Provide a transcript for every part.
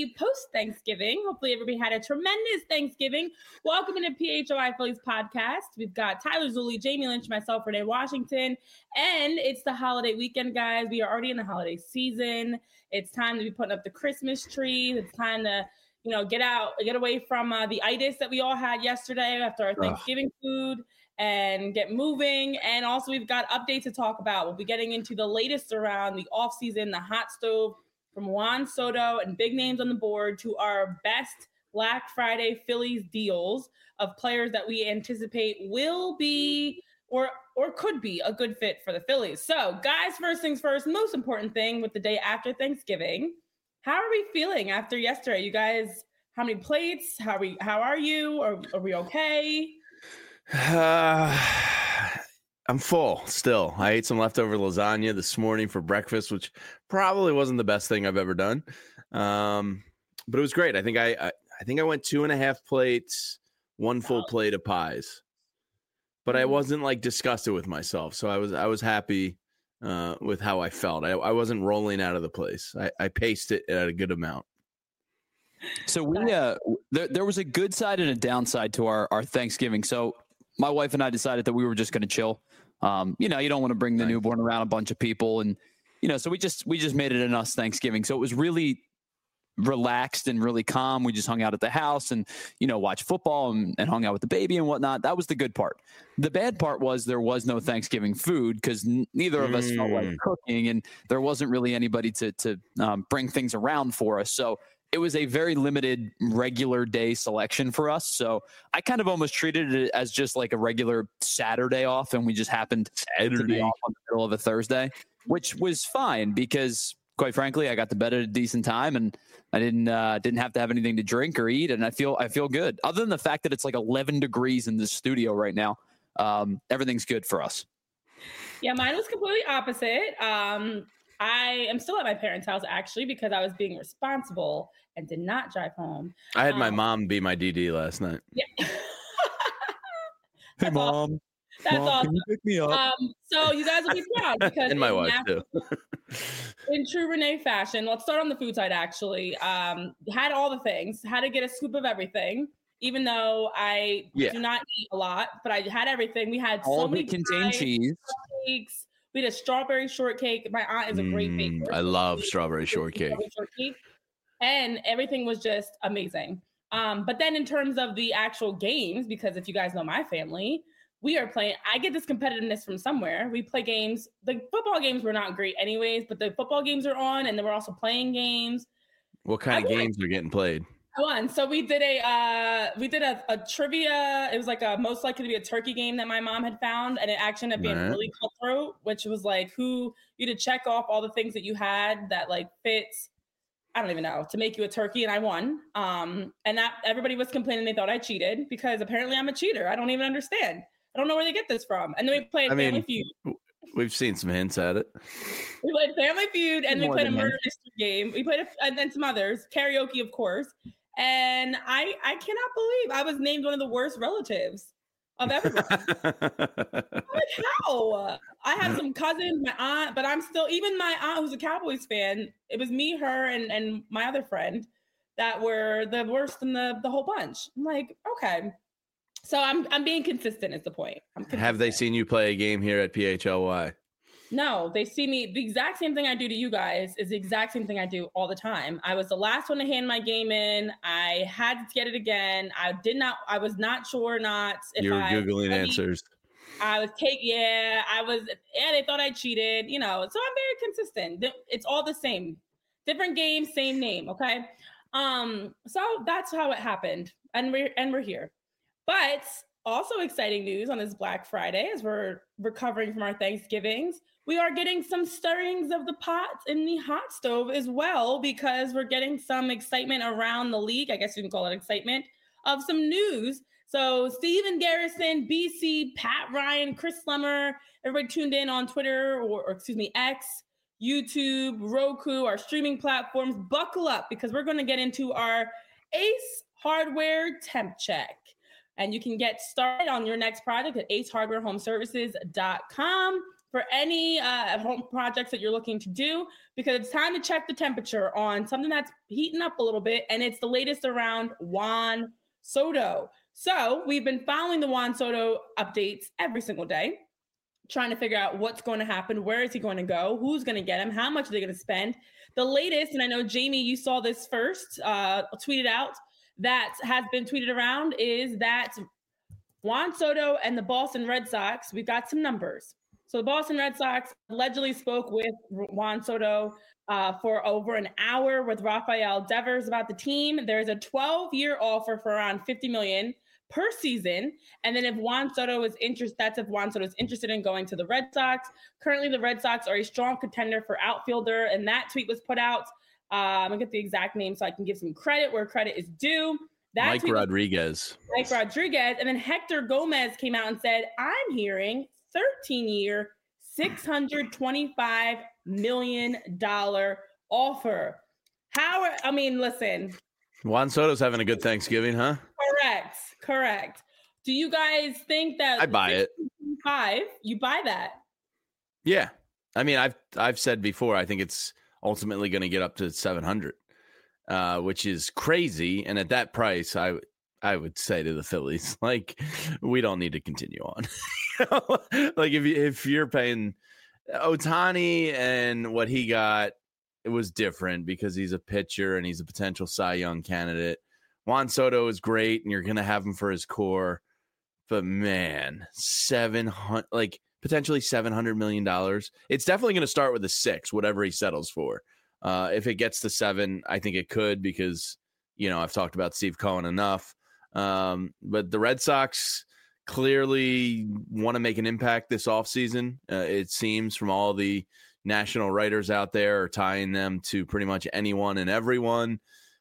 happy post-Thanksgiving. Hopefully everybody had a tremendous Thanksgiving. Welcome into PHOI Phillies podcast. We've got Tyler Zulli, Jamie Lynch, myself, Renee Washington, and it's the holiday weekend, guys. We are already in the holiday season. It's time to be putting up the Christmas tree. It's time to, get away from the itis that we all had yesterday after our Thanksgiving food and get moving. And also we've got updates to talk about. We'll be getting into the latest around the offseason, the hot stove from Juan Soto and big names on the board to our best Black Friday Phillies deals of players that we anticipate will be or could be a good fit for the Phillies. So guys, first things first, most important thing with the day after Thanksgiving, how are we feeling after yesterday? You guys, how many plates? How are you? Are we okay? I'm full still. I ate some leftover lasagna this morning for breakfast, which probably wasn't the best thing I've ever done. But it was great. I think I went 2.5 plates, one full plate of pies. But I wasn't like disgusted with myself. So I was happy with how I felt. I wasn't rolling out of the place. I paced it at a good amount. So we there was a good side and a downside to our Thanksgiving. So my wife and I decided that we were just going to chill. You don't want to bring the newborn around a bunch of people, and so we just made it an us Thanksgiving. So it was really relaxed and really calm. We just hung out at the house and watched football and hung out with the baby and whatnot. That was the good part. The bad part was there was no Thanksgiving food because neither of us felt like cooking, and there wasn't really anybody to bring things around for us. So it was a very limited regular day selection for us. So I kind of almost treated it as just like a regular Saturday off, and we just happened to be off on the middle of a Thursday, which was fine because, quite frankly, I got to bed at a decent time and I didn't have to have anything to drink or eat, and I feel good. Other than the fact that it's like 11 degrees in the studio right now, everything's good for us. Yeah, mine was completely opposite. I am still at my parents' house, actually, because I was being responsible and did not drive home. I had my mom be my DD last night. Yeah. Hey, Mom. Awesome. That's Mom, awesome. Can you pick me up? So you guys will be proud because and my wife, too. In true Renee fashion, let's start on the food side, actually. Had all the things, had to get a scoop of everything, even though I do not eat a lot, but I had everything. We had all so many contained cheese. Cakes. We had a strawberry shortcake. My aunt is a great baker. I love strawberry shortcake. And everything was just amazing. But then in terms of the actual games, because if you guys know my family, we are playing. I get this competitiveness from somewhere. We play games. The football games were not great anyways, but the football games are on, and then we're also playing games. What kind of games are getting played? I won. So we did a trivia. It was like a most likely to be a turkey game that my mom had found, and it actually ended up being really cutthroat, which was like you to check off all the things that you had that like fits. I don't even know, to make you a turkey, and I won. And that everybody was complaining they thought I cheated because apparently I'm a cheater. I don't even understand. I don't know where they get this from. And then we played Family Feud. We've seen some hints at it. We played Family Feud, and we played a murder mystery game. We played and then some others, karaoke, of course. And I cannot believe I was named one of the worst relatives of everybody. Like, how? I have some cousins, my aunt, but I'm still, even my aunt who's a Cowboys fan, it was me, her, and my other friend that were the worst in the whole bunch. I'm like, okay. So I'm being consistent is the point. Have they seen you play a game here at PHLY? No, they see me. The exact same thing I do to you guys is the exact same thing I do all the time. I was the last one to hand my game in. I had to get it again. I was not sure or not. You were Googling answers. I was they thought I cheated, so I'm very consistent. It's all the same. Different game, same name. Okay. So that's how it happened. And we're here. But also exciting news on this Black Friday as we're recovering from our Thanksgivings. We are getting some stirrings of the pot in the hot stove as well, because we're getting some excitement around the league. I guess you can call it excitement of some news. So Steven Garrison, BC, Pat Ryan, Chris Slemmer, everybody tuned in on Twitter or X, YouTube, Roku, our streaming platforms. Buckle up because we're going to get into our Ace Hardware temp check. And you can get started on your next project at acehardwarehomeservices.com. for any home projects that you're looking to do, because it's time to check the temperature on something that's heating up a little bit, and it's the latest around Juan Soto. So we've been following the Juan Soto updates every single day, trying to figure out what's going to happen, where is he going to go, who's going to get him, how much are they going to spend. The latest, and I know, Jamie, you saw this first, tweeted out, that has been tweeted around, is that Juan Soto and the Boston Red Sox, we've got some numbers. So the Boston Red Sox allegedly spoke with Juan Soto for over an hour with Rafael Devers about the team. There's a 12-year offer for around $50 million per season. And then if Juan Soto is interested, that's if Juan Soto is interested in going to the Red Sox. Currently, the Red Sox are a strong contender for outfielder, and that tweet was put out. I'm gonna get the exact name so I can give some credit where credit is due. Mike Rodriguez. Mike Rodriguez. And then Hector Gomez came out and said, I'm hearing 13-year, $625 million offer. Listen. Juan Soto's having a good Thanksgiving, huh? Correct. Do you guys think that I buy it? You buy that? Yeah. I mean, I've said before, I think it's ultimately going to get up to 700, which is crazy. And at that price, I would say to the Phillies, like, we don't need to continue on. Like if you're paying Ohtani and what he got, it was different because he's a pitcher and he's a potential Cy Young candidate. Juan Soto is great, and you're going to have him for his core. But, man, potentially $700 million. It's definitely going to start with a 6, whatever he settles for. If it gets to 7, I think it could because, I've talked about Steve Cohen enough. But the Red Sox clearly want to make an impact this offseason. It seems from all the national writers out there are tying them to pretty much anyone and everyone.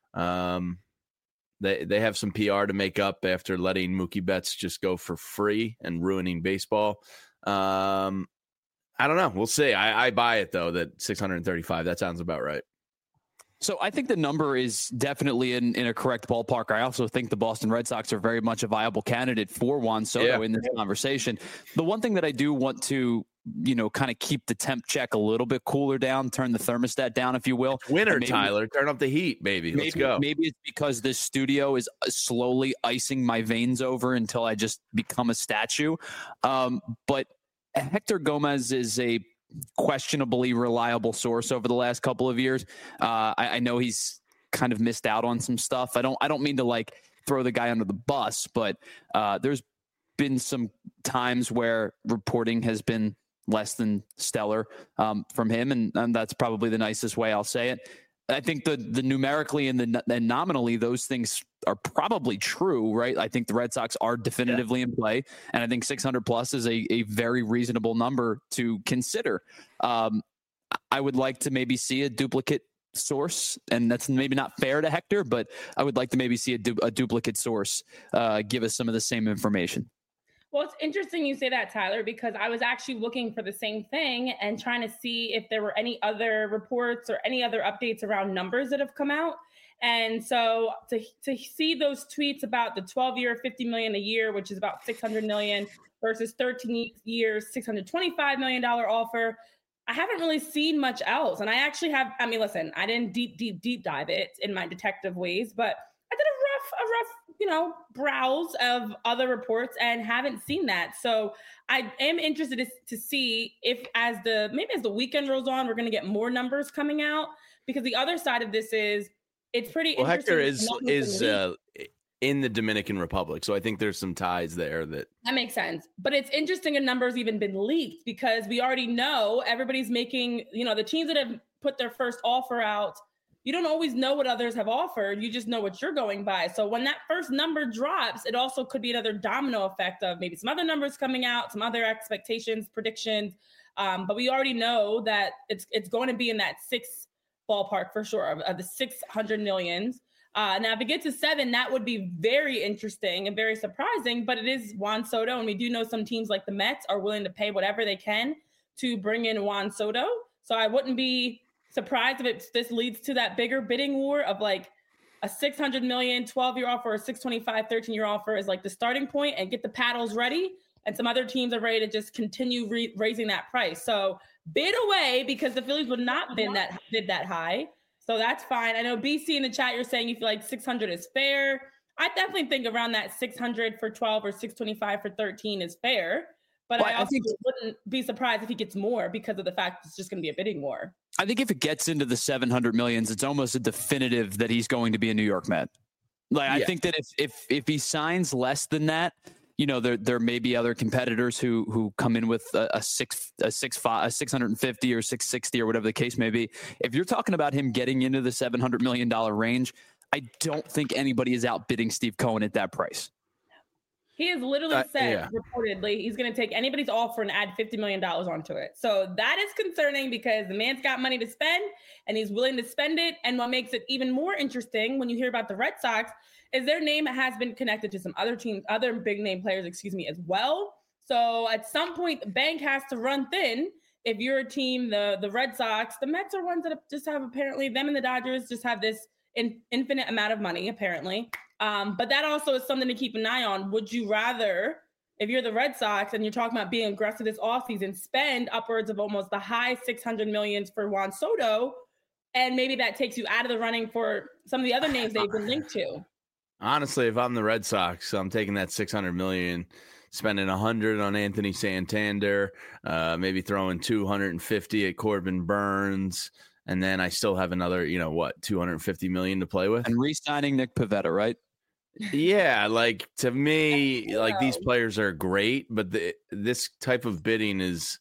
They have some PR to make up after letting Mookie Betts just go for free and ruining baseball. I don't know. We'll see. I buy it, though, that 635. That sounds about right. So I think the number is definitely in a correct ballpark. I also think the Boston Red Sox are very much a viable candidate for Juan Soto in this conversation. The one thing that I do want to kind of keep the temp check a little bit cooler down, turn the thermostat down, if you will. Winter, Tyler, turn up the heat, baby. Let's go. Maybe it's because this studio is slowly icing my veins over until I just become a statue. But Hector Gomez is a questionably reliable source over the last couple of years. I know he's kind of missed out on some stuff. I don't mean to throw the guy under the bus, but there's been some times where reporting has been less than stellar from him, and that's probably the nicest way I'll say it. I think the numerically and the nominally, those things are probably true, right? I think the Red Sox are definitively in play, and I think 600 plus is a very reasonable number to consider. I would like to maybe see a duplicate source, and that's maybe not fair to Hector, but I would like to maybe see a duplicate source give us some of the same information. Well, it's interesting you say that, Tyler, because I was actually looking for the same thing and trying to see if there were any other reports or any other updates around numbers that have come out. And so to see those tweets about the 12-year, $50 million a year, which is about $600 million versus 13 years, $625 million offer, I haven't really seen much else. And I actually have, listen, I didn't deep dive it in my detective ways, but I did a rough browse of other reports and haven't seen that. So I am interested to see if as the weekend rolls on, we're going to get more numbers coming out, because the other side of this is it's pretty interesting. Hector is in the Dominican Republic. So I think there's some ties there that makes sense. But it's interesting a number's even been leaked, because we already know everybody's making, the teams that have put their first offer out, you don't always know what others have offered. You just know what you're going by. So when that first number drops, it also could be another domino effect of maybe some other numbers coming out, some other expectations, predictions. But we already know that it's going to be in that 6 ballpark for sure of the 600 millions. Now, if it gets to 7, that would be very interesting and very surprising. But it is Juan Soto, and we do know some teams like the Mets are willing to pay whatever they can to bring in Juan Soto. So I wouldn't be surprised if this leads to that bigger bidding war of like a $600 million 12-year offer or a $625 13-year offer is like the starting point, and get the paddles ready. and some other teams are ready to just continue raising that price. So bid away, because the Phillies would not bid that high. So that's fine. I know BC in the chat, you're saying you feel like 600 is fair. I definitely think around that 600 for 12 or 625 for 13 is fair. But I also wouldn't be surprised if he gets more, because of the fact it's just going to be a bidding war. I think if it gets into the 700 millions, it's almost a definitive that he's going to be a New York Met. I think that if he signs less than that, there may be other competitors who come in with a 650 or 660 or whatever the case may be. If you're talking about him getting into the $700 million range, I don't think anybody is outbidding Steve Cohen at that price. He has literally said, reportedly, he's going to take anybody's offer and add $50 million onto it. So that is concerning, because the man's got money to spend and he's willing to spend it. And what makes it even more interesting when you hear about the Red Sox is their name has been connected to some other teams, other big name players, as well. So at some point, the bank has to run thin. If you're a team, the Red Sox, the Mets are ones that just have, apparently, them and the Dodgers just have this infinite amount of money, apparently. But that also is something to keep an eye on. Would you rather, if you're the Red Sox and you're talking about being aggressive this offseason, spend upwards of almost the high 600 millions for Juan Soto, and maybe that takes you out of the running for some of the other names they've been linked to? Honestly, if I'm the Red Sox, I'm taking that 600 million, spending 100 on Anthony Santander, maybe throwing 250 at Corbin Burns. And then I still have another, 250 million to play with. And re-signing Nick Pivetta, right? Yeah, to me, these players are great, but this type of bidding is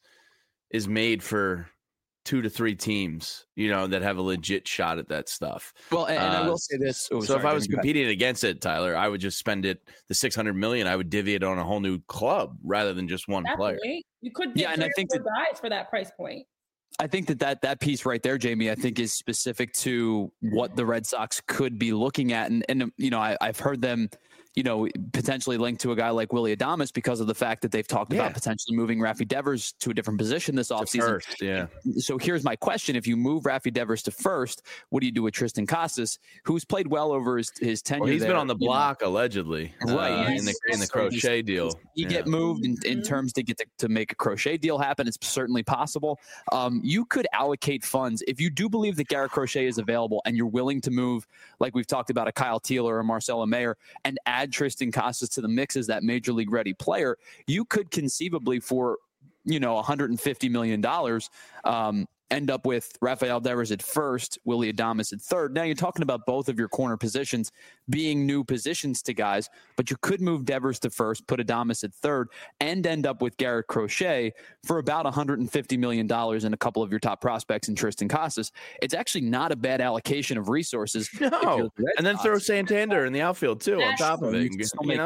made for 2 to 3 teams, that have a legit shot at that stuff. Well, and I will say this. If I was competing against it, Tyler, I would just spend the 600 million. I would divvy it on a whole new club rather than just one player. You could get and I think guys for that price point. I think that piece right there, Jamie, I think is specific to what the Red Sox could be looking at. And I've heard them, potentially linked to a guy like Willy Adames because of the fact that they've talked about potentially moving Rafi Devers to a different position this offseason. So here's my question. If you move Rafi Devers to first, what do you do with Tristan Casas, who's played well over his tenure? He's been on the block, allegedly, right? In the Crochet deal. You get moved in terms to make a Crochet deal happen. It's certainly possible. You could allocate funds if you do believe that Garrett Crochet is available and you're willing to move, like we've talked about, a Kyle Teel or a Marcelo Mayer, and add Tristan Casas to the mix as that major league ready player. You could conceivably, for $150 million, end up with Rafael Devers at first, Willy Adames at third. Now you're talking about both of your corner positions being new positions to guys, but you could move Devers to first, put Adames at third, and end up with Garrett Crochet for about $150 million and a couple of your top prospects in Tristan Casas. It's actually not a bad allocation of resources. No, and then throw Santander in the outfield too on top of it.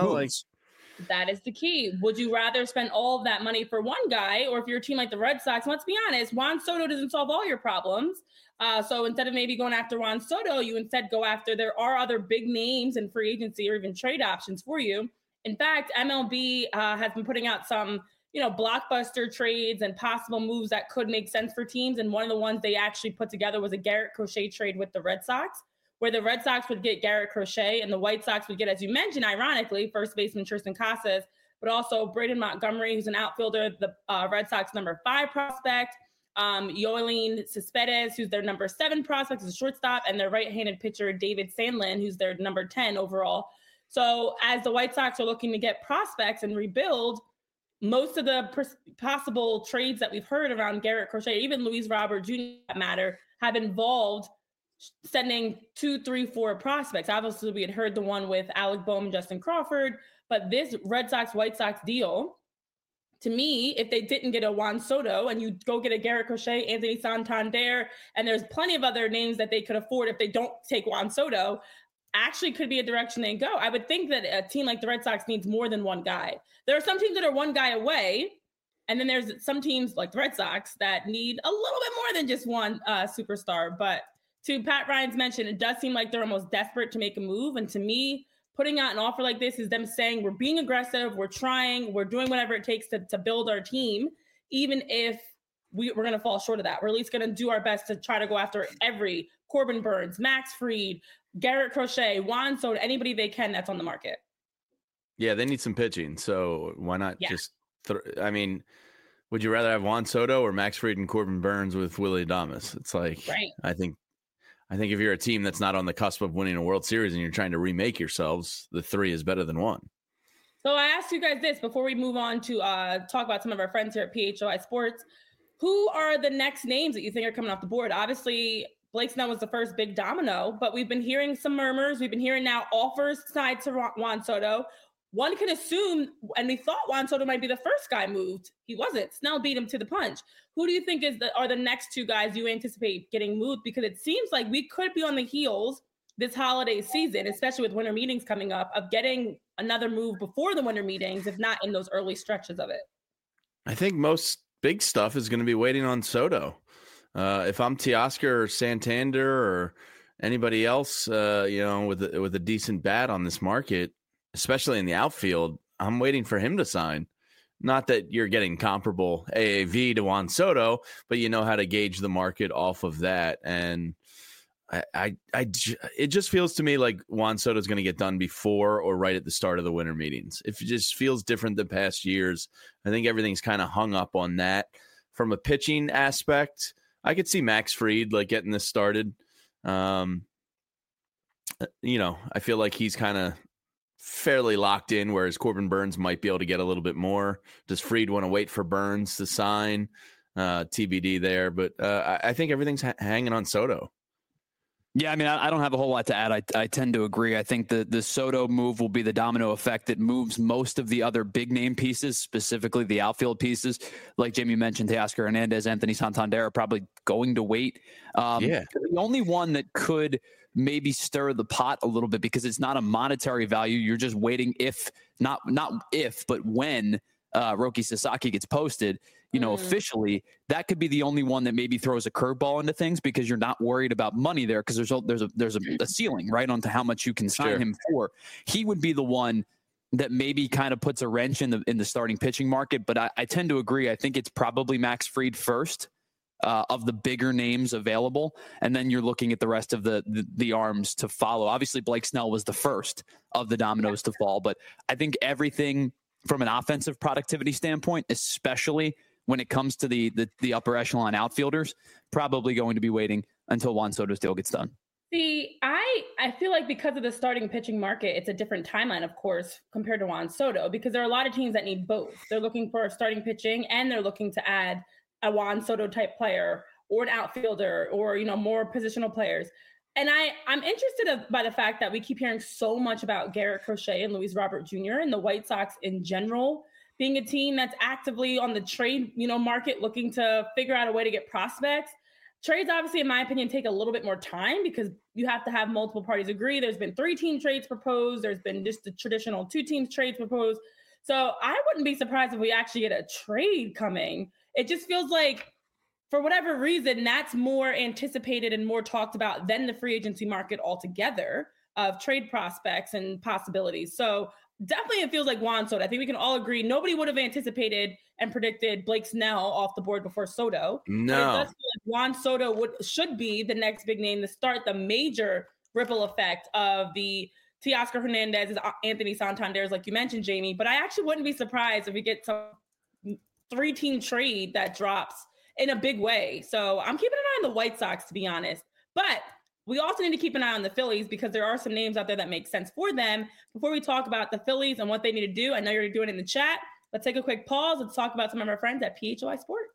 That is the key. Would you rather spend all of that money for one guy, or if you're a team like the Red Sox, let's be honest, Juan Soto doesn't solve all your problems. So instead of maybe going after Juan Soto, you instead go after, there are other big names in free agency or even trade options for you. In fact, MLB has been putting out some, blockbuster trades and possible moves that could make sense for teams. And one of the ones they actually put together was a Garrett Crochet trade with the Red Sox, where the Red Sox would get Garrett Crochet and the White Sox would get, as you mentioned, ironically, first baseman Tristan Casas, but also Braden Montgomery, who's an outfielder, the Red Sox number 5 prospect, Yoelin Cespedes, who's their number 7 prospect, is a shortstop, and their right-handed pitcher, David Sandlin, who's their number 10 overall. So as the White Sox are looking to get prospects and rebuild, most of the possible trades that we've heard around Garrett Crochet, even Luis Robert Jr. that matter, have involved sending 2, 3, 4 prospects. Obviously, we had heard the one with Alec Bohm, Justin Crawford, but this Red Sox, White Sox deal, to me, if they didn't get a Juan Soto and you go get a Garrett Crochet, Anthony Santander, and there's plenty of other names that they could afford if they don't take Juan Soto, actually could be a direction they go. I would think that a team like the Red Sox needs more than one guy. There are some teams that are one guy away, and then there's some teams like the Red Sox that need a little bit more than just one superstar. But to Pat Ryan's mention, it does seem like they're almost desperate to make a move. And to me, putting out an offer like this is them saying, we're being aggressive, we're trying, we're doing whatever it takes to build our team, even if we're going to fall short of that. We're at least going to do our best to try to go after every Corbin Burns, Max Fried, Garrett Crochet, Juan Soto, anybody they can that's on the market. Yeah, they need some pitching. So why not just I mean, would you rather have Juan Soto or Max Fried and Corbin Burns with Willie Adames? It's like, right. I think if you're a team that's not on the cusp of winning a World Series and you're trying to remake yourselves, the 3 is better than 1. So I asked you guys this before we move on to talk about some of our friends here at PHOI Sports. Who are the next names that you think are coming off the board? Obviously, Blake Snell was the first big domino, but we've been hearing some murmurs. We've been hearing now offers tied to Juan Soto. One could assume, and we thought Juan Soto might be the first guy moved. He wasn't. Snell beat him to the punch. Who do you think are the next 2 guys you anticipate getting moved? Because it seems like we could be on the heels this holiday season, especially with winter meetings coming up, of getting another move before the winter meetings, if not in those early stretches of it. I think most big stuff is going to be waiting on Soto. If I'm Teoscar or Santander or anybody else, with a decent bat on this market, especially in the outfield, I'm waiting for him to sign. Not that you're getting comparable AAV to Juan Soto, but you know how to gauge the market off of that. And it just feels to me like Juan Soto is going to get done before or right at the start of the winter meetings. It just feels different than past years. I think everything's kind of hung up on that. From a pitching aspect, I could see Max Fried getting this started. I feel like he's kind of fairly locked in, whereas Corbin Burns might be able to get a little bit more. Does Fried want to wait for Burns to sign? TBD there, but I think everything's hanging on Soto. Yeah, I mean, I don't have a whole lot to add. I tend to agree. I think the Soto move will be the domino effect that moves most of the other big name pieces, specifically the outfield pieces. Like Jamie mentioned, Teoscar Hernandez, Anthony Santander are probably going to wait. The only one that could maybe stir the pot a little bit, because it's not a monetary value. You're just waiting not if, but when Roki Sasaki gets posted, officially, that could be the only one that maybe throws a curveball into things, because you're not worried about money there, because there's a ceiling right onto how much you can sign him for. He would be the one that maybe kind of puts a wrench in the starting pitching market. But I tend to agree. I think it's probably Max Fried first of the bigger names available, and then you're looking at the rest of the arms to follow. Obviously, Blake Snell was the first of the dominoes to fall, but I think everything from an offensive productivity standpoint, especially when it comes to the upper echelon outfielders, probably going to be waiting until Juan Soto's deal gets done. See, I feel like because of the starting pitching market, it's a different timeline, of course, compared to Juan Soto, because there are a lot of teams that need both. They're looking for starting pitching, and they're looking to add a Juan Soto type player or an outfielder or, more positional players. And I'm interested by the fact that we keep hearing so much about Garrett Crochet and Luis Robert Jr. and the White Sox in general being a team that's actively on the trade, market, looking to figure out a way to get prospects. Trades, obviously, in my opinion, take a little bit more time because you have to have multiple parties agree. There's been 3-team trades proposed. There's been just the traditional 2-team trades proposed. So I wouldn't be surprised if we actually get a trade coming. It just feels like, for whatever reason, that's more anticipated and more talked about than the free agency market altogether of trade prospects and possibilities. So definitely it feels like Juan Soto. I think we can all agree nobody would have anticipated and predicted Blake Snell off the board before Soto. No. But it does feel like Juan Soto should be the next big name to start the major ripple effect of the Teoscar Hernandez, Anthony Santander's, like you mentioned, Jamie. But I actually wouldn't be surprised if we get some 3-team trade that drops in a big way. So I'm keeping an eye on the White Sox, to be honest. But we also need to keep an eye on the Phillies, because there are some names out there that make sense for them. Before we talk about the Phillies and what they need to do, I know you're doing it in the chat. Let's take a quick pause. Let's talk about some of our friends at PHOI Sports.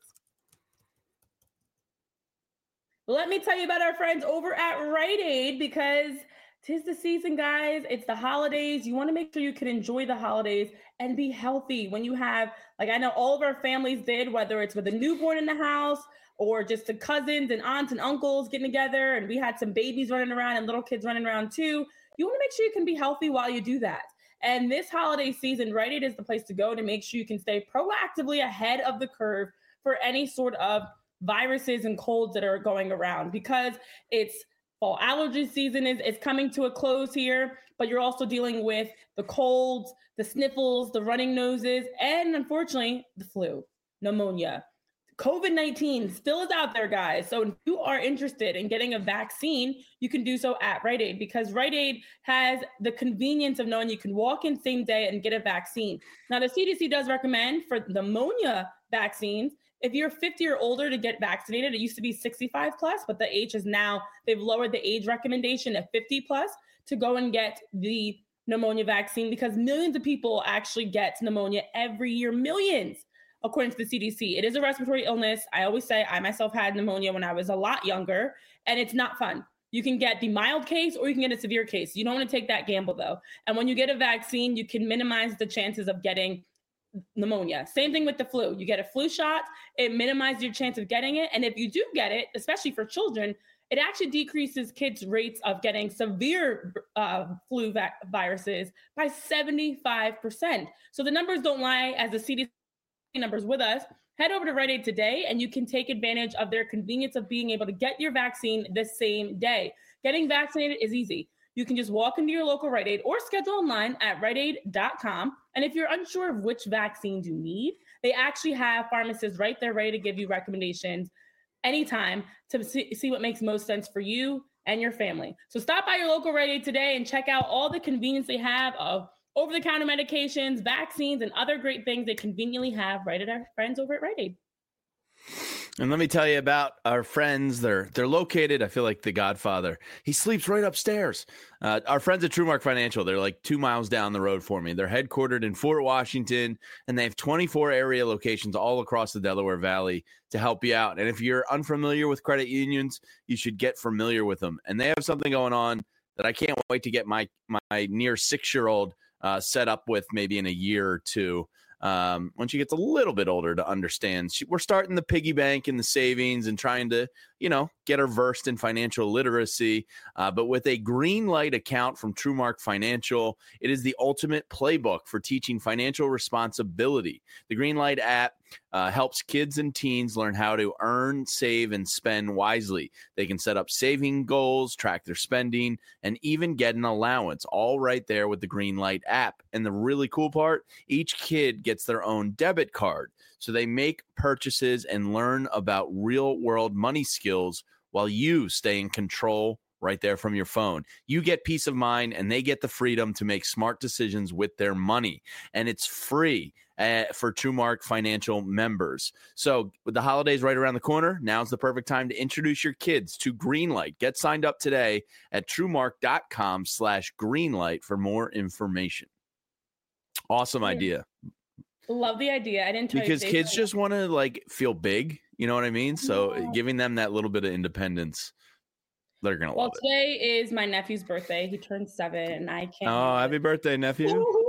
Let me tell you about our friends over at Rite Aid, because 'tis the season, guys. It's the holidays. You want to make sure you can enjoy the holidays and be healthy when you have, like I know all of our families did, whether it's with a newborn in the house or just the cousins and aunts and uncles getting together, and we had some babies running around and little kids running around too. You want to make sure you can be healthy while you do that. And this holiday season, Rite Aid is the place to go to make sure you can stay proactively ahead of the curve for any sort of viruses and colds that are going around, because it's fall allergy season is coming to a close here, but you're also dealing with the colds, the sniffles, the running noses, and unfortunately, the flu, pneumonia. COVID-19 still is out there, guys. So if you are interested in getting a vaccine, you can do so at Rite Aid, because Rite Aid has the convenience of knowing you can walk in same day and get a vaccine. Now, the CDC does recommend for pneumonia vaccines, if you're 50 or older, to get vaccinated. It used to be 65 plus, but the age is now, they've lowered the age recommendation at 50 plus to go and get the pneumonia vaccine, because millions of people actually get pneumonia every year, millions. According to the CDC, it is a respiratory illness. I always say I myself had pneumonia when I was a lot younger, and it's not fun. You can get the mild case or you can get a severe case. You don't want to take that gamble, though. And when you get a vaccine, you can minimize the chances of getting pneumonia. Same thing with the flu. You get a flu shot, it minimizes your chance of getting it. And if you do get it, especially for children, it actually decreases kids' rates of getting severe flu viruses by 75%. So the numbers don't lie, as the CDC numbers with us. Head over to Rite Aid today and you can take advantage of their convenience of being able to get your vaccine the same day. Getting vaccinated is easy. You can just walk into your local Rite Aid or schedule online at riteaid.com. And if you're unsure of which vaccines you need, they actually have pharmacists right there ready to give you recommendations anytime to see what makes most sense for you and your family. So stop by your local Rite Aid today and check out all the convenience they have of over-the-counter medications, vaccines, and other great things they conveniently have right at our friends over at Rite Aid. And let me tell you about our friends. They're located, I feel like the Godfather. He sleeps right upstairs. Our friends at TrueMark Financial, they're like 2 miles down the road for me. They're headquartered in Fort Washington, and they have 24 area locations all across the Delaware Valley to help you out. And if you're unfamiliar with credit unions, you should get familiar with them. And they have something going on that I can't wait to get my near 6-year-old set up with maybe in a year or two. When she gets a little bit older to understand. We're starting the piggy bank and the savings and trying to, get her versed in financial literacy. But with a Greenlight account from TrueMark Financial, it is the ultimate playbook for teaching financial responsibility. The Greenlight app helps kids and teens learn how to earn, save, and spend wisely. They can set up saving goals, track their spending, and even get an allowance, all right there with the Greenlight app. And the really cool part, each kid gets their own debit card. So they make purchases and learn about real-world money skills while you stay in control right there from your phone. You get peace of mind, and they get the freedom to make smart decisions with their money. And it's free for TrueMark Financial members. So with the holidays right around the corner, now's the perfect time to introduce your kids to Greenlight. Get signed up today at TrueMark.com/Greenlight for more information. Awesome idea. Love the idea. I didn't tell because kids just want to feel big. You know what I mean? So giving them that little bit of independence, they're going to love it. Well, today is my nephew's birthday. He turned 7 and I can't. Oh, happy birthday, nephew.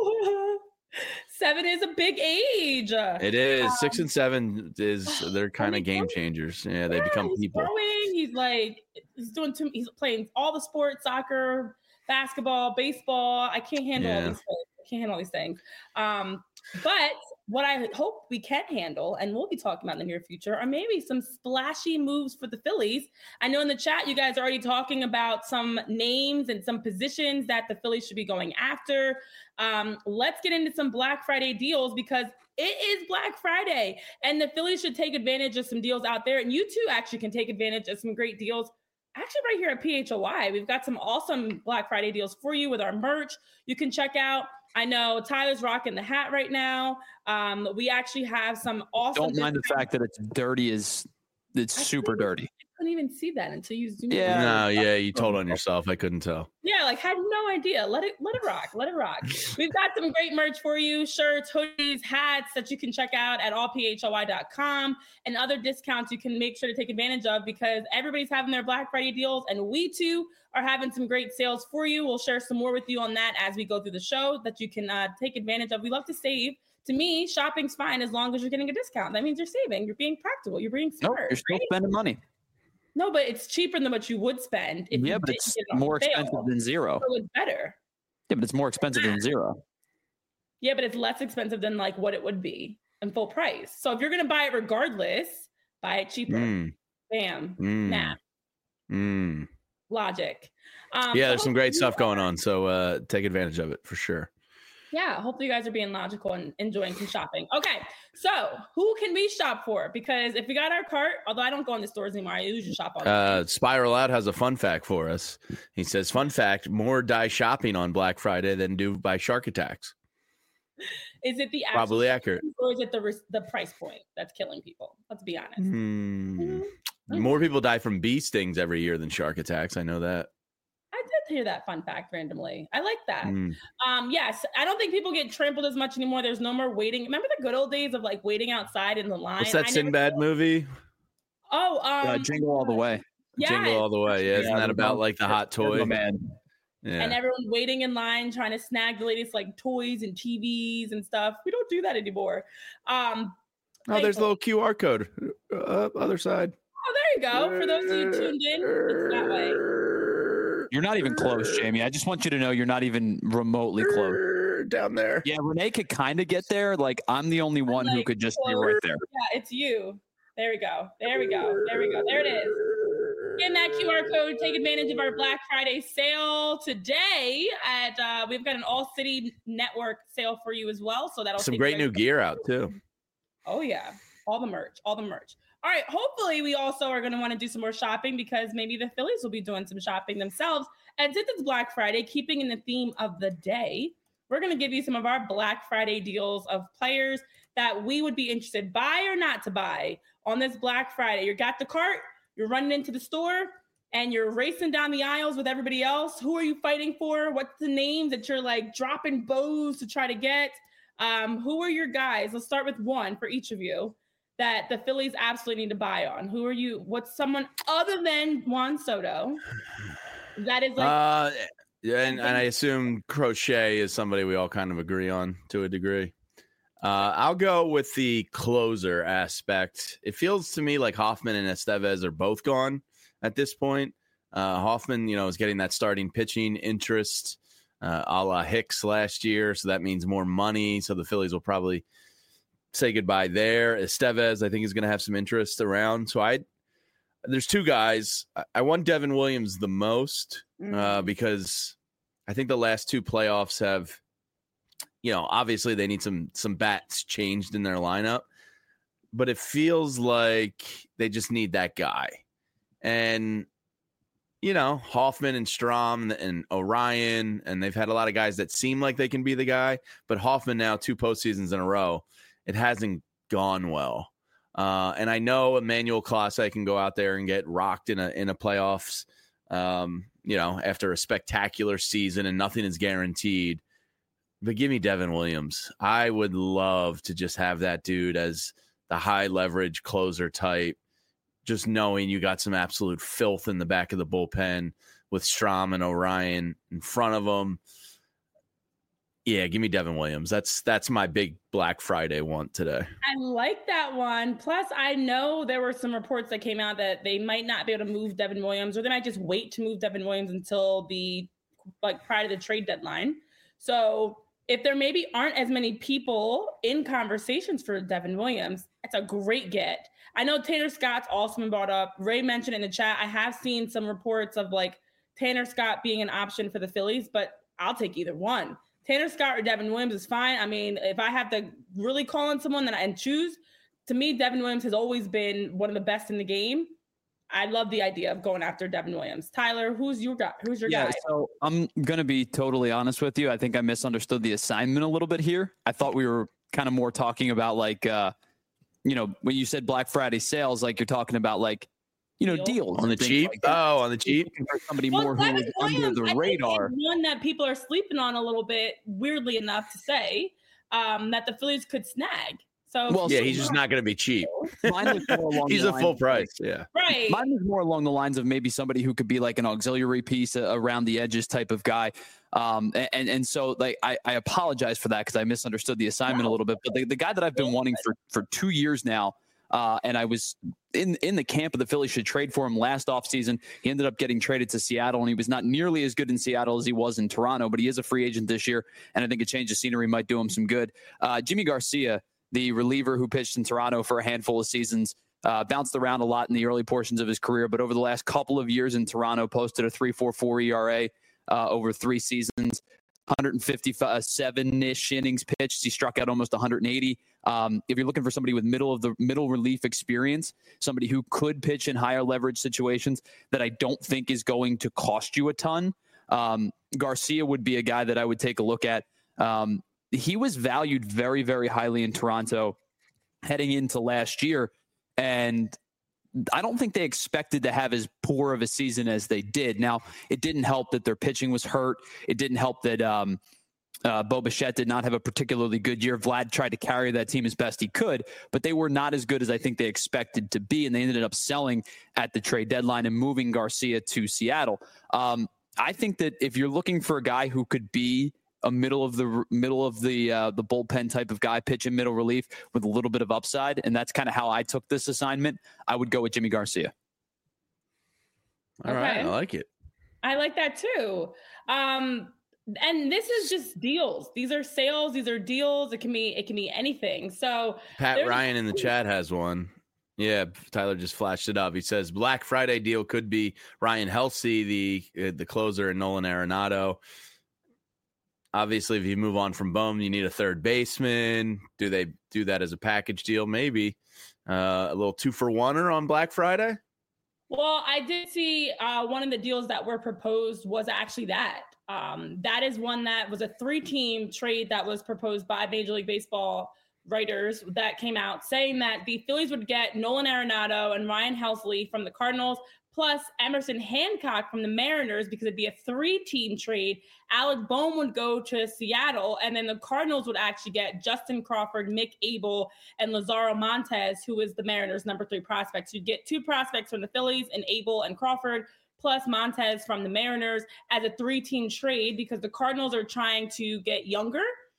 7 is a big age. It is. 6 and 7 they're kind of game changers. Yeah, they become people. Growing. He's playing all the sports, soccer, basketball, baseball. I can't handle all these things. But what I hope we can handle, and we'll be talking about in the near future, are maybe some splashy moves for the Phillies. I know in the chat, you guys are already talking about some names and some positions that the Phillies should be going after. Let's get into some Black Friday deals, because it is Black Friday and the Phillies should take advantage of some deals out there. And you too actually can take advantage of some great deals. Actually, right here at PHOI, we've got some awesome Black Friday deals for you with our merch. You can check out. I know Tyler's rocking the hat right now. We actually have some awesome. Don't mind the fact that it's dirty. It's super dirty. I couldn't even see that until you zoomed in. No, yeah, you told on yourself. I couldn't tell. Yeah, had no idea. Let it rock. Let it rock. We've got some great merch for you: shirts, hoodies, hats that you can check out at allphoi.com, and other discounts you can make sure to take advantage of, because everybody's having their Black Friday deals, and we too are having some great sales for you. We'll share some more with you on that as we go through the show that you can take advantage of. We love to save. To me, shopping's fine as long as you're getting a discount. That means you're saving. You're being practical. You're being smart. Nope, you're still spending money. No, but it's cheaper than what you would spend. If but it's more expensive than zero. So it's better. Yeah, but it's more expensive than zero. Yeah, but it's less expensive than what it would be in full price. So if you're going to buy it regardless, buy it cheaper. Bam. Math. Logic. There's some great stuff going on. So take advantage of it for sure. Yeah, hopefully you guys are being logical and enjoying some shopping. Okay, so who can we shop for? Because if we got our cart, although I don't go in the stores anymore, I usually shop online. Spiral Out has a fun fact for us. He says, fun fact, more die shopping on Black Friday than do by shark attacks. Is it the probably accurate, or is it the price point that's killing people? Let's be honest. More people die from bee stings every year than shark attacks. I know that. I did hear that fun fact randomly. I like that. Yes, I don't think people get trampled as much anymore. There's no more waiting. Remember the good old days of like waiting outside in the line? What's that Sinbad movie? Oh, Jingle All the Way. Yeah, Jingle All the Way. Yeah, isn't that about like the hot toy? Man. Yeah. And everyone waiting in line trying to snag the latest like toys and TVs and stuff. We don't do that anymore. There's a little QR code. Other side. Oh, there you go. For those of you tuned in, it's that way. You're not even close, Jamie. I just want you to know you're not even remotely close. Down there. Yeah, Renee could kind of get there. Like, I'm the only one who could just be right there. Yeah, it's you. There we go. There we go. There we go. There it is. Scan that QR code. Take advantage of our Black Friday sale today. We've got an All City Network sale for you as well. So that'll some great new gear out too. Oh yeah, all the merch. All right. Hopefully, we also are going to want to do some more shopping because maybe the Phillies will be doing some shopping themselves. And since it's Black Friday, keeping in the theme of the day, we're going to give you some of our Black Friday deals of players that we would be interested buy or not to buy on this Black Friday. You got the cart. You're running into the store and you're racing down the aisles with everybody else. Who are you fighting for? What's the names that you're like dropping bows to try to get? Who are your guys? Let's start with one for each of you that the Phillies absolutely need to buy on. Who are you? What's someone other than Juan Soto that is like? And I assume Crochet is somebody we all kind of agree on to a degree. I'll go with the closer aspect. It feels to me like Hoffman and Estevez are both gone at this point. Hoffman, is getting that starting pitching interest a la Hicks last year. So that means more money. So the Phillies will probably say goodbye there. Estevez, I think, is going to have some interest around. So there's two guys. I want Devin Williams the most because I think the last two playoffs have, obviously they need some bats changed in their lineup, but it feels like they just need that guy. And, Hoffman and Strom and Orion, and they've had a lot of guys that seem like they can be the guy, but Hoffman now 2 postseasons in a row, it hasn't gone well. And I know Emmanuel Clase can go out there and get rocked in a playoffs, after a spectacular season and nothing is guaranteed. But give me Devin Williams. I would love to just have that dude as the high leverage closer type, just knowing you got some absolute filth in the back of the bullpen with Strom and Orion in front of them. Yeah, give me Devin Williams. That's my big Black Friday want today. I like that one. Plus, I know there were some reports that came out that they might not be able to move Devin Williams, or they might just wait to move Devin Williams until prior to the trade deadline. So if there maybe aren't as many people in conversations for Devin Williams, it's a great get. I know Tanner Scott's also been brought up. Ray mentioned in the chat. I have seen some reports of Tanner Scott being an option for the Phillies, but I'll take either one. Tanner Scott or Devin Williams is fine. I mean, if I have to really call on someone and choose, to me, Devin Williams has always been one of the best in the game. I love the idea of going after Devin Williams. Tyler, who's your guy? So I'm going to be totally honest with you. I think I misunderstood the assignment a little bit here. I thought we were kind of more talking about when you said Black Friday sales, you're talking about deals on the cheap. On the cheap. Somebody more who is under the radar. One that people are sleeping on a little bit, weirdly enough to say, that the Phillies could snag. So he's just not going to be cheap. He's a full price. Yeah. Right. Mine was more along the lines of maybe somebody who could be like an auxiliary piece around the edges type of guy. So I apologize for that because I misunderstood the assignment a little bit. But the guy that I've been wanting for 2 years now, and I was in the camp of the Phillies should trade for him last offseason. He ended up getting traded to Seattle, and he was not nearly as good in Seattle as he was in Toronto, but he is a free agent this year, and I think a change of scenery might do him some good. Jimmy Garcia, the reliever who pitched in Toronto for a handful of seasons, bounced around a lot in the early portions of his career, but over the last couple of years in Toronto, posted a 3.44 ERA over 3 seasons. 157-ish innings pitched. He struck out almost 180. If you're looking for somebody with middle relief experience, somebody who could pitch in higher leverage situations that I don't think is going to cost you a ton, Garcia would be a guy that I would take a look at. He was valued very, very highly in Toronto heading into last year, and I don't think they expected to have as poor of a season as they did. Now, it didn't help that their pitching was hurt. It didn't help that Bo Bichette did not have a particularly good year. Vlad tried to carry that team as best he could, but they were not as good as I think they expected to be, and they ended up selling at the trade deadline and moving Garcia to Seattle. I think that if you're looking for a guy who could be a middle of the bullpen type of guy, pitching middle relief with a little bit of upside, and that's kind of how I took this assignment, I would go with Jimmy Garcia. All right, I like it. I like that too. And this is just deals. These are sales. These are deals. It can be anything. So Pat Ryan in the chat has one. Yeah, Tyler just flashed it up. He says Black Friday deal could be Ryan Helsley, the closer, and Nolan Arenado. Obviously, if you move on from Bohm, you need a third baseman. Do they do that as a package deal? Maybe a little 2-for-1er on Black Friday. Well, I did see one of the deals that were proposed was actually that. That is one that was a 3-team trade that was proposed by Major League Baseball writers that came out saying that the Phillies would get Nolan Arenado and Ryan Helsley from the Cardinals, plus Emerson Hancock from the Mariners, because it'd be a 3-team trade. Alec Bohm would go to Seattle, and then the Cardinals would actually get Justin Crawford, Mick Abel, and Lazaro Montes, who is the Mariners' number 3 prospect. So you'd get 2 prospects from the Phillies, and Abel and Crawford, plus Montes from the Mariners as a 3-team trade, because the Cardinals are trying to get younger.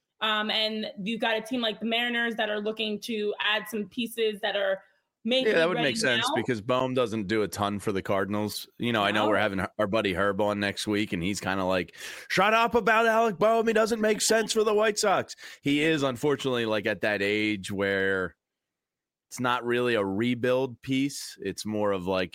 And you've got a team like the Mariners that are looking to add some pieces that are that would make sense because Bohm doesn't do a ton for the Cardinals. You know, I know we're having our buddy Herb on next week, and he's kind of like, shut up about Alec Bohm. He doesn't make sense for the White Sox. He is, unfortunately, like at that age where it's not really a rebuild piece. It's more of like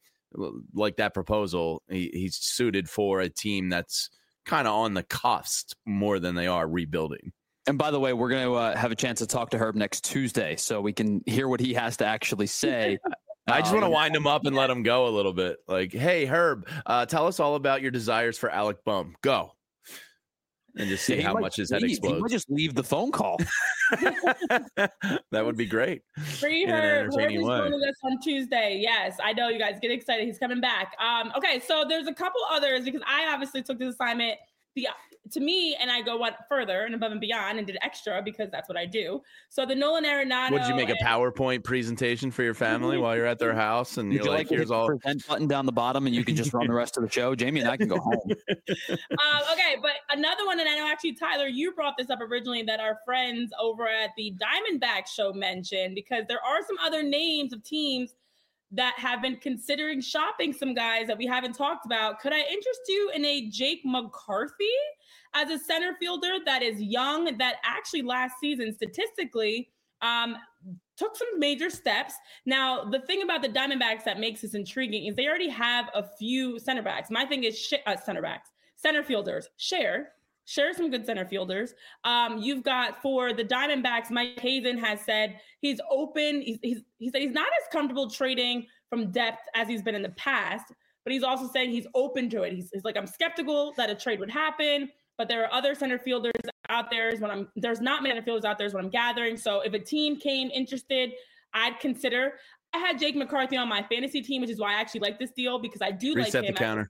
that proposal. He's suited for a team that's kind of on the cusp more than they are rebuilding. And by the way, we're going to have a chance to talk to Herb next Tuesday, so we can hear what he has to actually say. I just want to wind him up and let him go a little bit. Like, hey, Herb, tell us all about your desires for Alec Bohm. Go. And just see how much his head explodes. He might just leave the phone call. That would be great. Free Herb. Herb is going with us on Tuesday. Yes, I know, you guys. Get excited. He's coming back. Okay, so there's a couple others because I obviously took this assignment to me, and I go one further and above and beyond and did extra because that's what I do. So the Nolan Arenado. Would you make a PowerPoint presentation for your family while you're at their house? And you're like, here's all present button down the bottom, and you can just run the rest of the show. Jamie and I can go home. Okay, but another one, and I know actually, Tyler, you brought this up originally that our friends over at the Diamondback show mentioned, because there are some other names of teams that have been considering shopping some guys that we haven't talked about. Could I interest you in a Jake McCarthy as a center fielder that is young, that actually last season statistically took some major steps? Now, the thing about the Diamondbacks that makes this intriguing is they already have a few center backs. My thing is center fielders. Share some good center fielders. You've got, for the Diamondbacks, Mike Hazen has said he's open. He said he's not as comfortable trading from depth as he's been in the past, but he's also saying he's open to it. He's like, I'm skeptical that a trade would happen, but there are other center fielders out there. There's not many center fielders out there is what I'm gathering. So if a team came interested, I'd consider. I had Jake McCarthy on my fantasy team, which is why I actually like this deal, because I do like him. Reset the counter.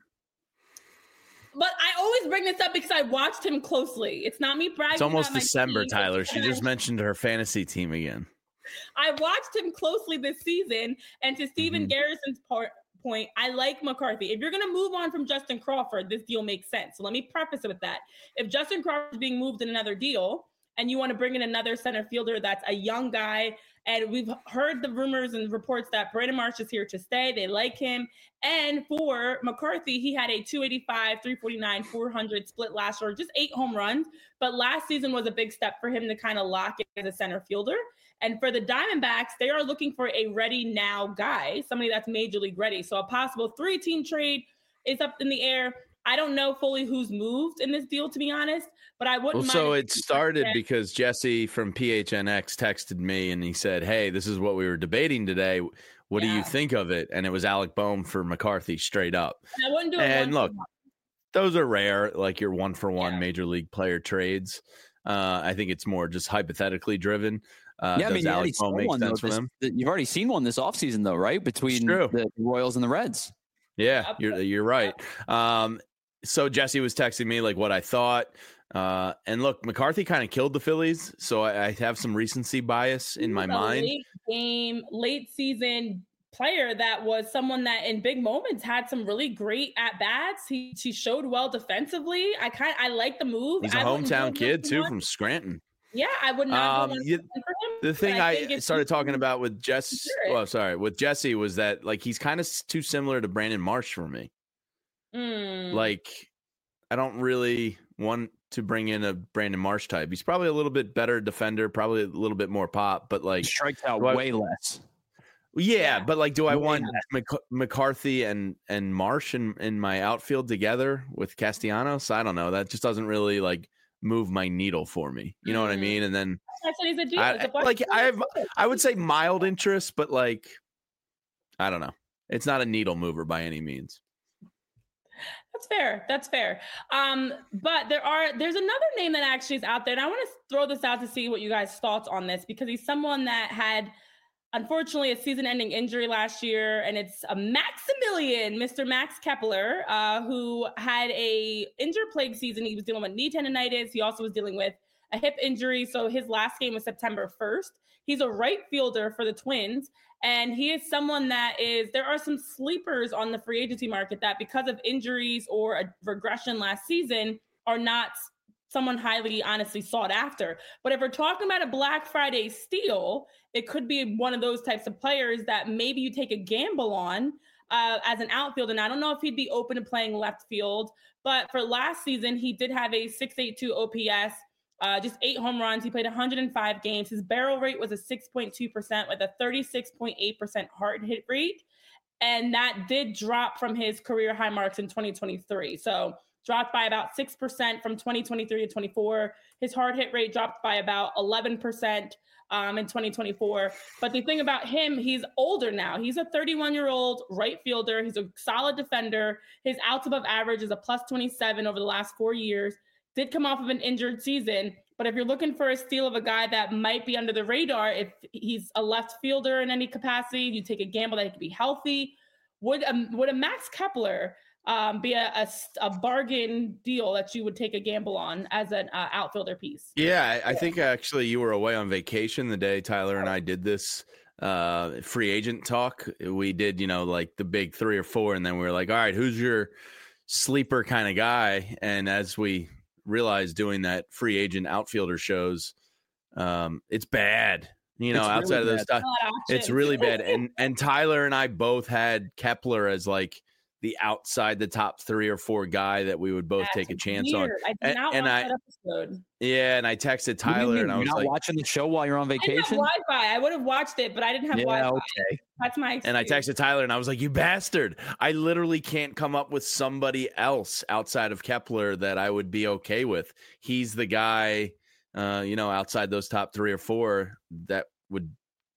But I always bring this up because I watched him closely. It's not me bragging. It's almost about December, team. Tyler. She just mentioned her fantasy team again. I watched him closely this season, and to Steven Garrison's point, I like McCarthy. If you're going to move on from Justin Crawford, this deal makes sense. So let me preface it with that. If Justin Crawford is being moved in another deal, and you want to bring in another center fielder that's a young guy, and we've heard the rumors and reports that Brandon Marsh is here to stay. They like him. And for McCarthy, he had a 285, 349, 400 split last year, just 8 home runs. But last season was a big step for him to kind of lock in as a center fielder. And for the Diamondbacks, they are looking for a ready now guy, somebody that's major league ready. So a possible 3-team trade is up in the air. I don't know fully who's moved in this deal, to be honest, but I wouldn't mind. So it started because Jesse from PHNX texted me and he said, hey, this is what we were debating today. What do you think of it? And it was Alec Bohm for McCarthy straight up. And I wouldn't do it. And look, those are rare, like your 1-for-1 major league player trades. I think it's more just hypothetically driven. Alec Bohm make sense for them? You've already seen one this offseason, though, right? Between the Royals and the Reds. Yeah, you're right. So Jesse was texting me like what I thought. And look, McCarthy kind of killed the Phillies, so I have some recency bias in my mind. Late season player that was someone that in big moments had some really great at bats. He showed well defensively. I like the move. He's a hometown kid too from Scranton. Yeah, I would not. For him, the thing I started talking about with with Jesse was that like he's kind of too similar to Brandon Marsh for me. Like, I don't really want to bring in a Brandon Marsh type. He's probably a little bit better defender, probably a little bit more pop, but like strikes out way less. Yeah, but like, do I want McCarthy and Marsh in my outfield together with Castellanos? I don't know. That just doesn't really like move my needle for me. You know what I mean? And then I would say mild interest, but like, I don't know. It's not a needle mover by any means. That's fair. But there's another name that actually is out there, and I want to throw this out to see what you guys' thoughts on this, because he's someone that had, unfortunately, a season-ending injury last year, and it's a Maximilian, Mr. Max Kepler, who had a injury-plagued season. He was dealing with knee tendonitis. He also was dealing with a hip injury. So his last game was September 1st. He's a right fielder for the Twins. And he is someone there are some sleepers on the free agency market that, because of injuries or a regression last season, are not someone highly, honestly sought after. But if we're talking about a Black Friday steal, it could be one of those types of players that maybe you take a gamble on as an outfielder. And I don't know if he'd be open to playing left field, but for last season, he did have a 6.82 OPS. Just 8 home runs. He played 105 games. His barrel rate was a 6.2% with a 36.8% hard hit rate. And that did drop from his career high marks in 2023. So dropped by about 6% from 2023 to 24. His hard hit rate dropped by about 11% in 2024. But the thing about him, he's older now. He's a 31-year-old right fielder. He's a solid defender. His outs above average is a plus 27 over the last 4 years. Did come off of an injured season, but if you're looking for a steal of a guy that might be under the radar, if he's a left fielder in any capacity, you take a gamble that he could be healthy. Would a Max Kepler be a bargain deal that you would take a gamble on as an outfielder piece? Yeah, I think actually you were away on vacation the day Tyler and I did this free agent talk. We did, like the big 3 or 4, and then we were like, all right, who's your sleeper kind of guy? And as we realized doing that free agent outfielder shows, it's bad. Outside of those stuff, it's really bad. And Tyler and I both had Kepler as like the outside the top 3 or 4 guy that we would both take a chance on. I did not watch that episode. Yeah, and I texted Tyler and I was not like, watching the show while you're on vacation? Wi-Fi. I would have watched it, but I didn't have Wi-Fi. Okay. That's my excuse. And I texted Tyler and I was like, you bastard. I literally can't come up with somebody else outside of Kepler that I would be okay with. He's the guy, outside those top 3 or 4 that would,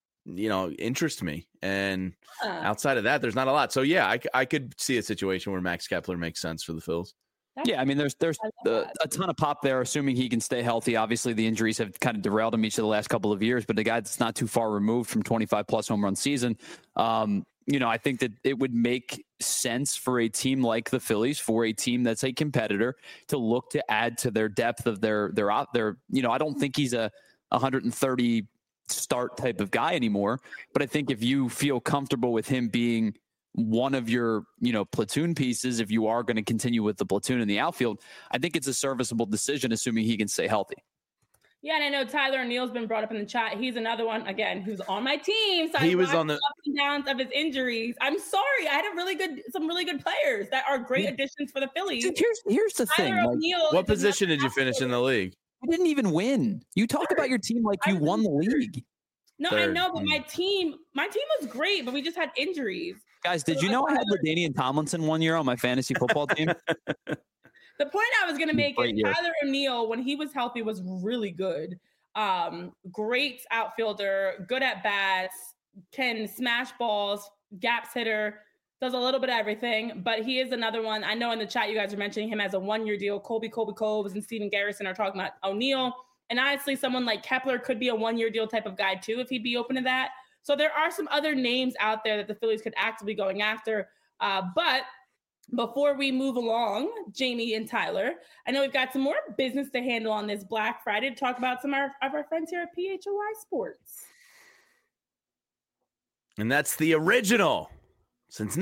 interest me. And outside of that, there's not a lot. So yeah, I could see a situation where Max Kepler makes sense for the Phils. Yeah, I mean, there's a ton of pop there, assuming he can stay healthy. Obviously, the injuries have kind of derailed him each of the last couple of years, but the guy that's not too far removed from 25-plus home run season, I think that it would make sense for a team like the Phillies, for a team that's a competitor, to look to add to their depth of their. I don't think he's a 130 start type of guy anymore, but I think if you feel comfortable with him being one of your, platoon pieces, if you are going to continue with the platoon in the outfield, I think it's a serviceable decision, assuming he can stay healthy. Yeah, and I know Tyler O'Neill's been brought up in the chat. He's another one, again, who's on my team. So he was on the ups and downs of his injuries. I'm sorry. I had some really good players that are great additions for the Phillies. Dude, here's the thing. What position did you finish in the league? You didn't even win. You talk about your team like you won the league. No, third. I know, but my team was great, but we just had injuries. Guys, did you know I had LaDainian Tomlinson 1 year on my fantasy football team? The point I was going to make is Tyler O'Neill, when he was healthy, was really good. Great outfielder, good at bats, can smash balls, gaps hitter, does a little bit of everything. But he is another one. I know in the chat you guys are mentioning him as a 1 year deal. Colby Coles and Steven Garrison are talking about O'Neill. And honestly, someone like Kepler could be a 1 year deal type of guy too, if he'd be open to that. So there are some other names out there that the Phillies could actively going after. But before we move along, Jamie and Tyler, I know we've got some more business to handle on this Black Friday to talk about some of our friends here at PHOI Sports. And that's the original. Since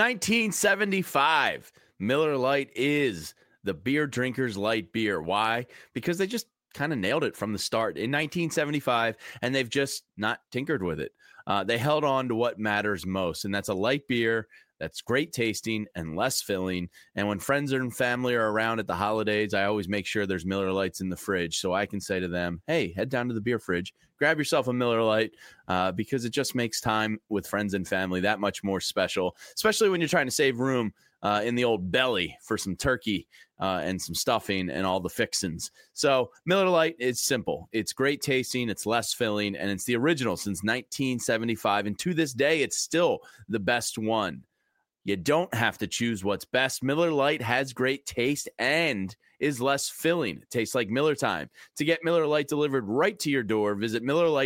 1975, Miller Lite is the beer drinkers' light beer. Why? Because they just kind of nailed it from the start in 1975, and they've just not tinkered with it. They held on to what matters most, and that's a light beer that's great tasting and less filling. And when friends and family are around at the holidays, I always make sure there's Miller Lites in the fridge so I can say to them, hey, head down to the beer fridge, grab yourself a Miller Lite, because it just makes time with friends and family that much more special, especially when you're trying to save room in the old belly for some turkey and some stuffing and all the fixins. So Miller Lite is simple. It's great tasting. It's less filling, and it's the original since 1975. And to this day, it's still the best one. You don't have to choose what's best. Miller Lite has great taste and is less filling. It tastes like Miller time. To get Miller Lite delivered right to your door, visit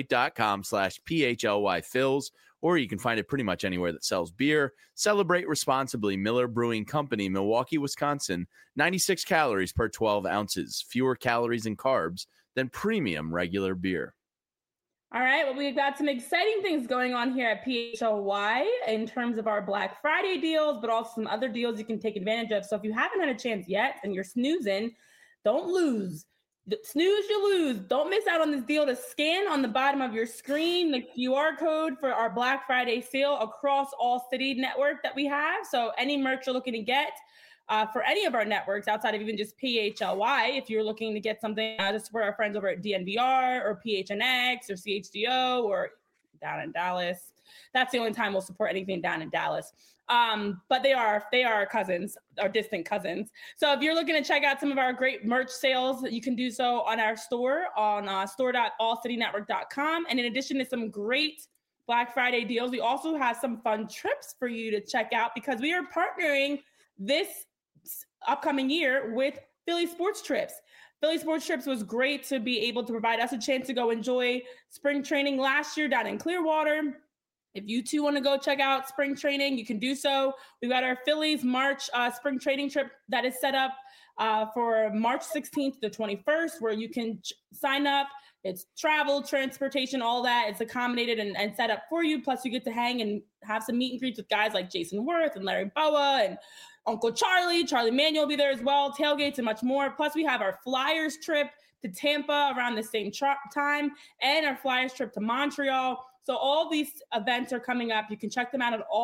MillerLite.com/PHLYFills, or you can find it pretty much anywhere that sells beer. Celebrate responsibly. Miller Brewing Company, Milwaukee, Wisconsin. 96 calories per 12 ounces. Fewer calories and carbs than premium regular beer. All right, well, we've got some exciting things going on here at PHLY in terms of our Black Friday deals, but also some other deals you can take advantage of. So if you haven't had a chance yet and you're snoozing, don't lose. Snooze, you lose. Don't miss out on this deal to scan on the bottom of your screen the QR code for our Black Friday sale across all city network that we have. So any merch you're looking to get for any of our networks outside of even just PHLY, if you're looking to get something to support our friends over at DNVR or PHNX or CHGO or down in Dallas. That's the only time we'll support anything down in Dallas. But they are cousins, our distant cousins. So if you're looking to check out some of our great merch sales, you can do so on our store on store.allcitynetwork.com. And in addition to some great Black Friday deals, we also have some fun trips for you to check out because we are partnering this upcoming year with Philly Sports Trips. Philly Sports Trips was great to be able to provide us a chance to go enjoy spring training last year down in Clearwater. If you too want to go check out spring training, you can do so. We've got our Phillies March spring training trip that is set up for March 16th to the 21st, where you can sign up. It's travel, transportation, all that. It's accommodated and set up for you. Plus, you get to hang and have some meet and greets with guys like Jason Worth and Larry Boa and Uncle Charlie Manuel will be there as well, tailgates and much more. Plus, we have our Flyers trip to Tampa around the same time and our Flyers trip to Montreal. So all these events are coming up. You can check them out at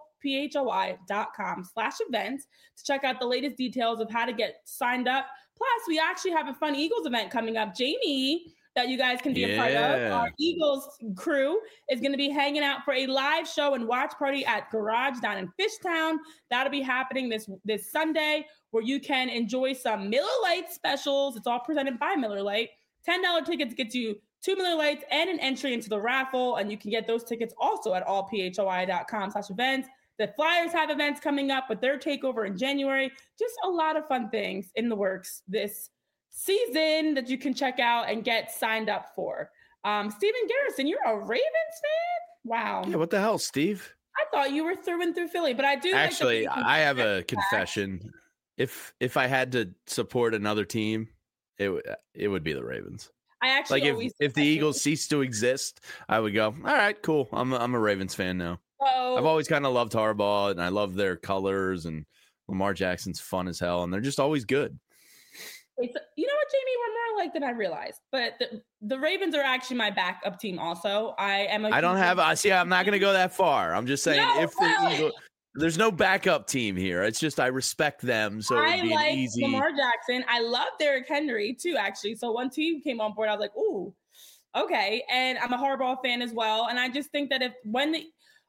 allphoi.com/events to check out the latest details of how to get signed up. Plus, we actually have a fun Eagles event coming up. Jamie, that you guys can be a part of. Our Eagles crew is going to be hanging out for a live show and watch party at Garage down in Fishtown. That'll be happening this Sunday, where you can enjoy some Miller Lite specials. It's all presented by Miller Lite. $10 tickets gets you 2 Miller Lites and an entry into the raffle, and you can get those tickets also at allphoi.com/events. The Flyers have events coming up with their takeover in January. Just a lot of fun things in the works this season that you can check out and get signed up for. Steven Garrison, you're a Ravens fan? Wow. Yeah, what the hell, Steve? I thought you were through and through Philly, but I do actually. I have a confession. If I had to support another team, it would be the Ravens. I actually if the Eagles cease to exist, I would go, all right, cool. I'm a Ravens fan now. So, I've always kind of loved Harbaugh, and I love their colors, and Lamar Jackson's fun as hell, and they're just always good. You know what, Jamie? We're more alike than I realized. But the Ravens are actually my backup team also. I'm not going to go that far. I'm just saying there's no backup team here. It's just I respect them, so it'd be an easy. Lamar Jackson. I love Derrick Henry too, actually. So once he came on board, I was like, ooh, okay. And I'm a Harbaugh fan as well. And I just think that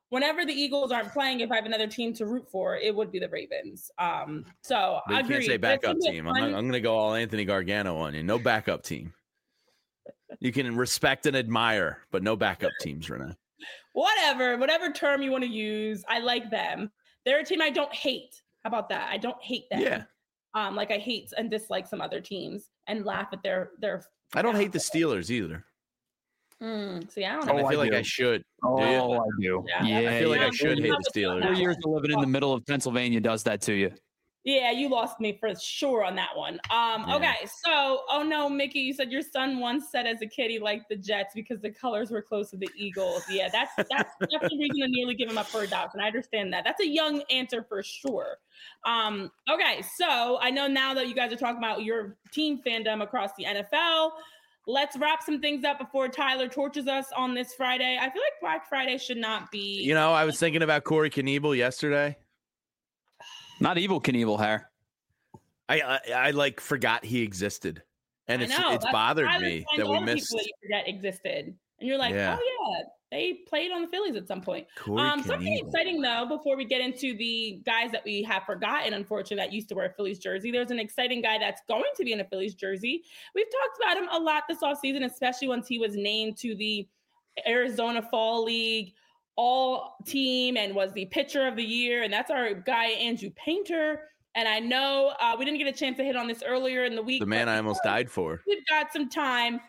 whenever the Eagles aren't playing, if I have another team to root for, it would be the Ravens. So but I you agree. can't say backup team. I'm going to go all Anthony Gargano on you. No backup team. You can respect and admire, but no backup teams, Renee. Whatever term you want to use, I like them. They're a team I don't hate. How about that? I don't hate them. Yeah. Like I hate and dislike some other teams and laugh at their. I don't hate the Steelers either. See, I don't know. I feel like I should. I do. Yeah. I feel like I should hate the Steelers. 4 years of living in the middle of Pennsylvania does that to you. Yeah, you lost me for sure on that one. Okay, so, oh no, Mickey, you said your son once said as a kid he liked the Jets because the colors were close to the Eagles. Yeah, that's the reason to nearly give him up for adoption. I understand that. That's a young answer for sure. Okay, so I know now that you guys are talking about your team fandom across the NFL. Let's wrap some things up before Tyler torches us on this Friday. I feel like Black Friday should not be. You know, I was thinking about Corey Knievel yesterday. Not Evel Knievel, hair. I like forgot he existed, and it's bothered me that we missed. That you forget existed, and you're like, oh yeah, they played on the Phillies at some point. Something exciting though, before we get into the guys that we have forgotten, unfortunately, that used to wear a Phillies jersey. There's an exciting guy that's going to be in a Phillies jersey. We've talked about him a lot this offseason, especially once he was named to the Arizona Fall League all team and was the pitcher of the year. And that's our guy, Andrew Painter. And I know we didn't get a chance to hit on this earlier in the week. The man I almost died for. We've got some time.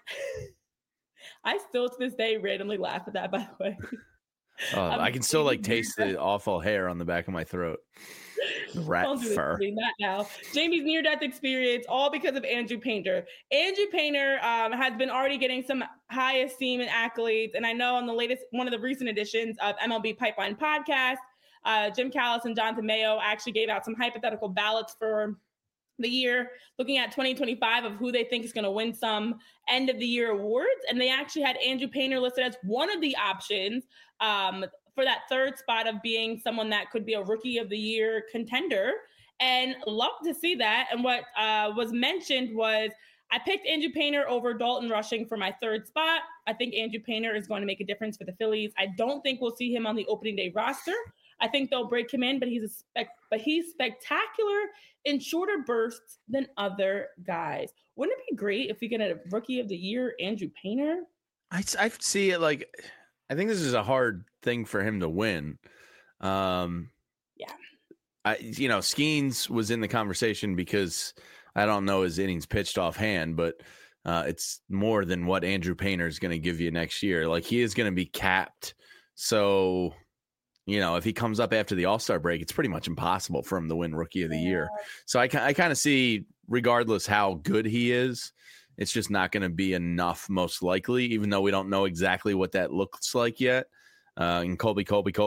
I still to this day randomly laugh at that, by the way. I can still taste the awful hair on the back of my throat. The rat fur. Not now. Jamie's near-death experience, all because of Andrew Painter. Andrew Painter has been already getting some high esteem and accolades. And I know on the latest, one of the recent editions of MLB Pipeline Podcast, Jim Callis and Jonathan Mayo actually gave out some hypothetical ballots for the year, looking at 2025 of who they think is going to win some end of the year awards. And they actually had Andrew Painter listed as one of the options for that third spot of being someone that could be a rookie of the year contender. And love to see that. And what was mentioned was I picked Andrew Painter over Dalton Rushing for my third spot. I think Andrew Painter is going to make a difference for the Phillies. I don't think we'll see him on the opening day roster. I think they'll break him in, but he's spectacular in shorter bursts than other guys. Wouldn't it be great if we get a rookie of the year, Andrew Painter? I see it I think this is a hard thing for him to win. Skeens was in the conversation because I don't know his innings pitched offhand, but it's more than what Andrew Painter is going to give you next year. He is going to be capped. So, if he comes up after the All-Star break, it's pretty much impossible for him to win Rookie of the Year. So I kind of see, regardless how good he is, it's just not going to be enough, most likely, even though we don't know exactly what that looks like yet. And Colby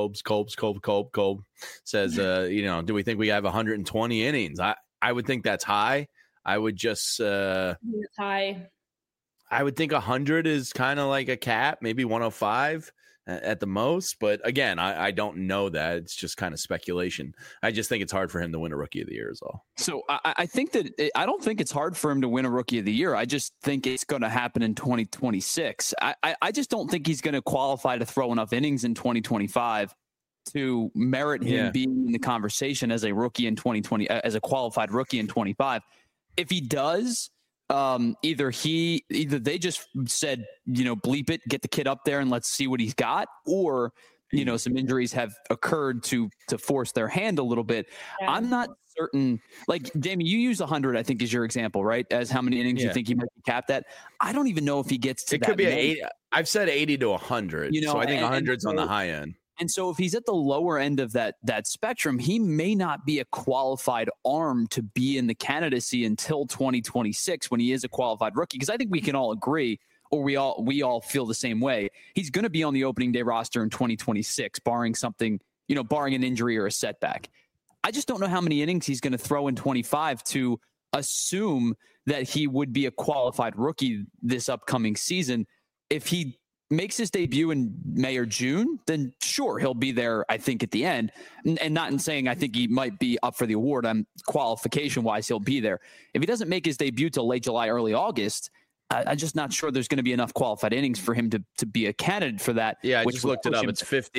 says, do we think we have 120 innings? I would think that's high. I would just it's high. I would think 100 is kind of like a cap, maybe 105 at the most. But again, I don't know that. It's just kind of speculation. I just think it's hard for him to win a Rookie of the Year is all. So I think that I don't think it's hard for him to win a Rookie of the Year. I just think it's going to happen in 2026. I just don't think he's going to qualify to throw enough innings in 2025 to merit him being in the conversation as a rookie in 2020, as a qualified rookie in 25. If he does, either they just said, bleep it, get the kid up there and let's see what he's got, or some injuries have occurred to force their hand a little bit. Yeah. I'm not certain. Jamie, you use 100, I think, is your example, right? As how many innings you think he might be capped at. I don't even know if he gets to that. It could be 80. I've said 80 to 100. So I think 100's on the high end. And so if he's at the lower end of that spectrum, he may not be a qualified arm to be in the candidacy until 2026 when he is a qualified rookie. Because I think we can all agree, or we all feel the same way. He's going to be on the opening day roster in 2026, barring something, barring an injury or a setback. I just don't know how many innings he's going to throw in 25 to assume that he would be a qualified rookie this upcoming season. If he makes his debut in May or June, then sure, he'll be there, I think, at the end. And not in saying I think he might be up for the award. Qualification-wise, he'll be there. If he doesn't make his debut till late July, early August, I'm just not sure there's going to be enough qualified innings for him to be a candidate for that. Yeah, I just looked it up. It's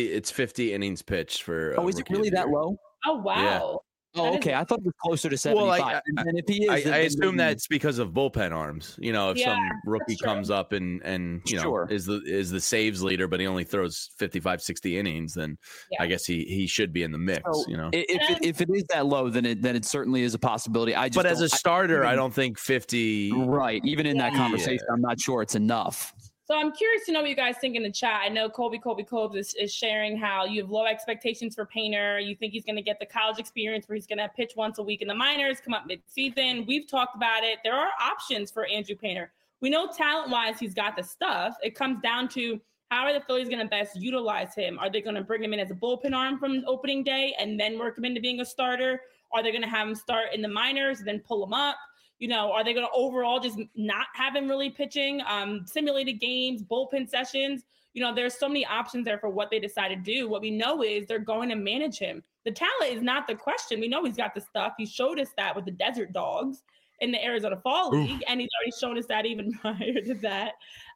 50 innings pitched for. Oh, is it really that low? Oh, wow. Yeah. Oh, okay. I thought it was closer to 75. Well, and if he is, I assume that's because of bullpen arms. If some rookie comes up and is the saves leader, but he only throws 55, 60 innings, then I guess he should be in the mix. So if it is that low, then it certainly is a possibility. But as a starter, I don't think 50. Right. Even in that conversation, I'm not sure it's enough. So I'm curious to know what you guys think in the chat. I know Colby is sharing how you have low expectations for Painter. You think he's going to get the college experience where he's going to pitch once a week in the minors, come up mid-season. We've talked about it. There are options for Andrew Painter. We know talent-wise he's got the stuff. It comes down to how are the Phillies going to best utilize him? Are they going to bring him in as a bullpen arm from opening day and then work him into being a starter? Are they going to have him start in the minors and then pull him up? Are they going to overall just not have him really pitching, simulated games, bullpen sessions? There's so many options there for what they decide to do. What we know is they're going to manage him. The talent is not the question. We know he's got the stuff. He showed us that with the Desert Dogs in the Arizona Fall League, and he's already shown us that even prior to that.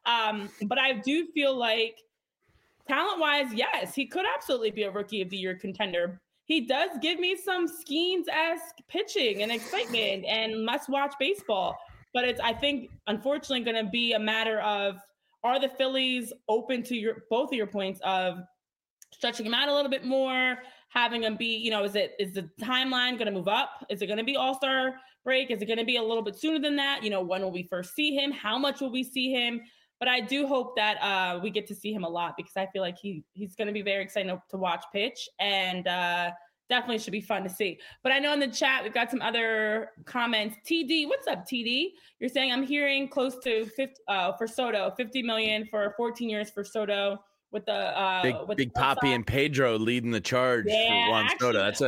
But I do feel like talent-wise, yes, he could absolutely be a Rookie of the Year contender. He does give me some Skeens-esque pitching and excitement and must-watch baseball. But it's, I think, unfortunately going to be a matter of, are the Phillies open to both of your points of stretching him out a little bit more, having him be, is the timeline going to move up? Is it going to be All-Star break? Is it going to be a little bit sooner than that? When will we first see him? How much will we see him? But I do hope that we get to see him a lot because I feel like he's going to be very exciting to watch pitch and definitely should be fun to see. But I know in the chat, we've got some other comments. TD, what's up, TD? You're saying I'm hearing close to 50 for Soto, $50 million for 14 years for Soto with the Big Papi and Pedro leading the charge for Juan Soto. That's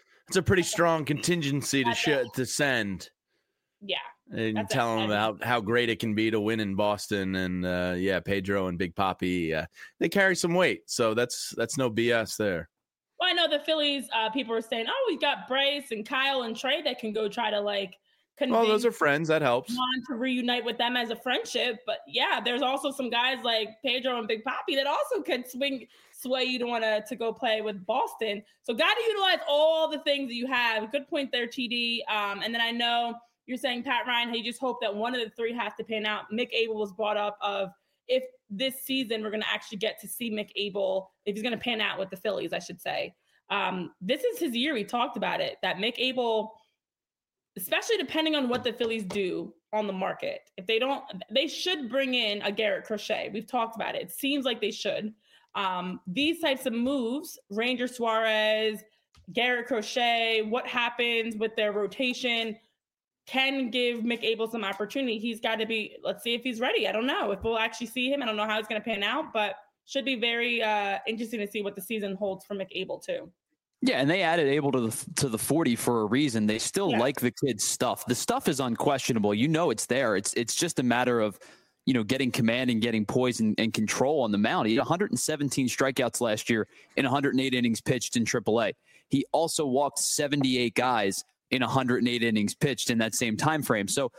a pretty strong contingency to send. Yeah. And tell them how great it can be to win in Boston. And Pedro and Big Papi, they carry some weight. So that's no BS there. Well, I know the Phillies, people are saying, we got Bryce and Kyle and Trey that can go try to convince those are friends. That helps. Juan to reunite with them as a friendship. But there's also some guys like Pedro and Big Papi that also could sway you to want to go play with Boston. So got to utilize all the things that you have. Good point there, TD. And then I know you're saying, Pat Ryan, how you just hope that one of the three has to pan out. Mick Abel was brought up of if this season we're going to actually get to see Mick Abel, if he's going to pan out with the Phillies, I should say. This is his year. We talked about it, that Mick Abel, especially depending on what the Phillies do on the market. If they don't, they should bring in a Garrett Crochet. We've talked about it. It seems like they should. These types of moves, Ranger Suarez, Garrett Crochet, what happens with their rotation can give Mick Abel some opportunity. He's got to be, let's see if he's ready. I don't know if we'll actually see him. I don't know how it's going to pan out, but should be very interesting to see what the season holds for Mick Abel too. Yeah, and they added Abel to the 40 for a reason. They still like the kid's stuff. The stuff is unquestionable. It's there. It's just a matter of, getting command and getting poise and control on the mound. He had 117 strikeouts last year in 108 innings pitched in AAA. He also walked 78 guys in 108 innings pitched in that same time frame. So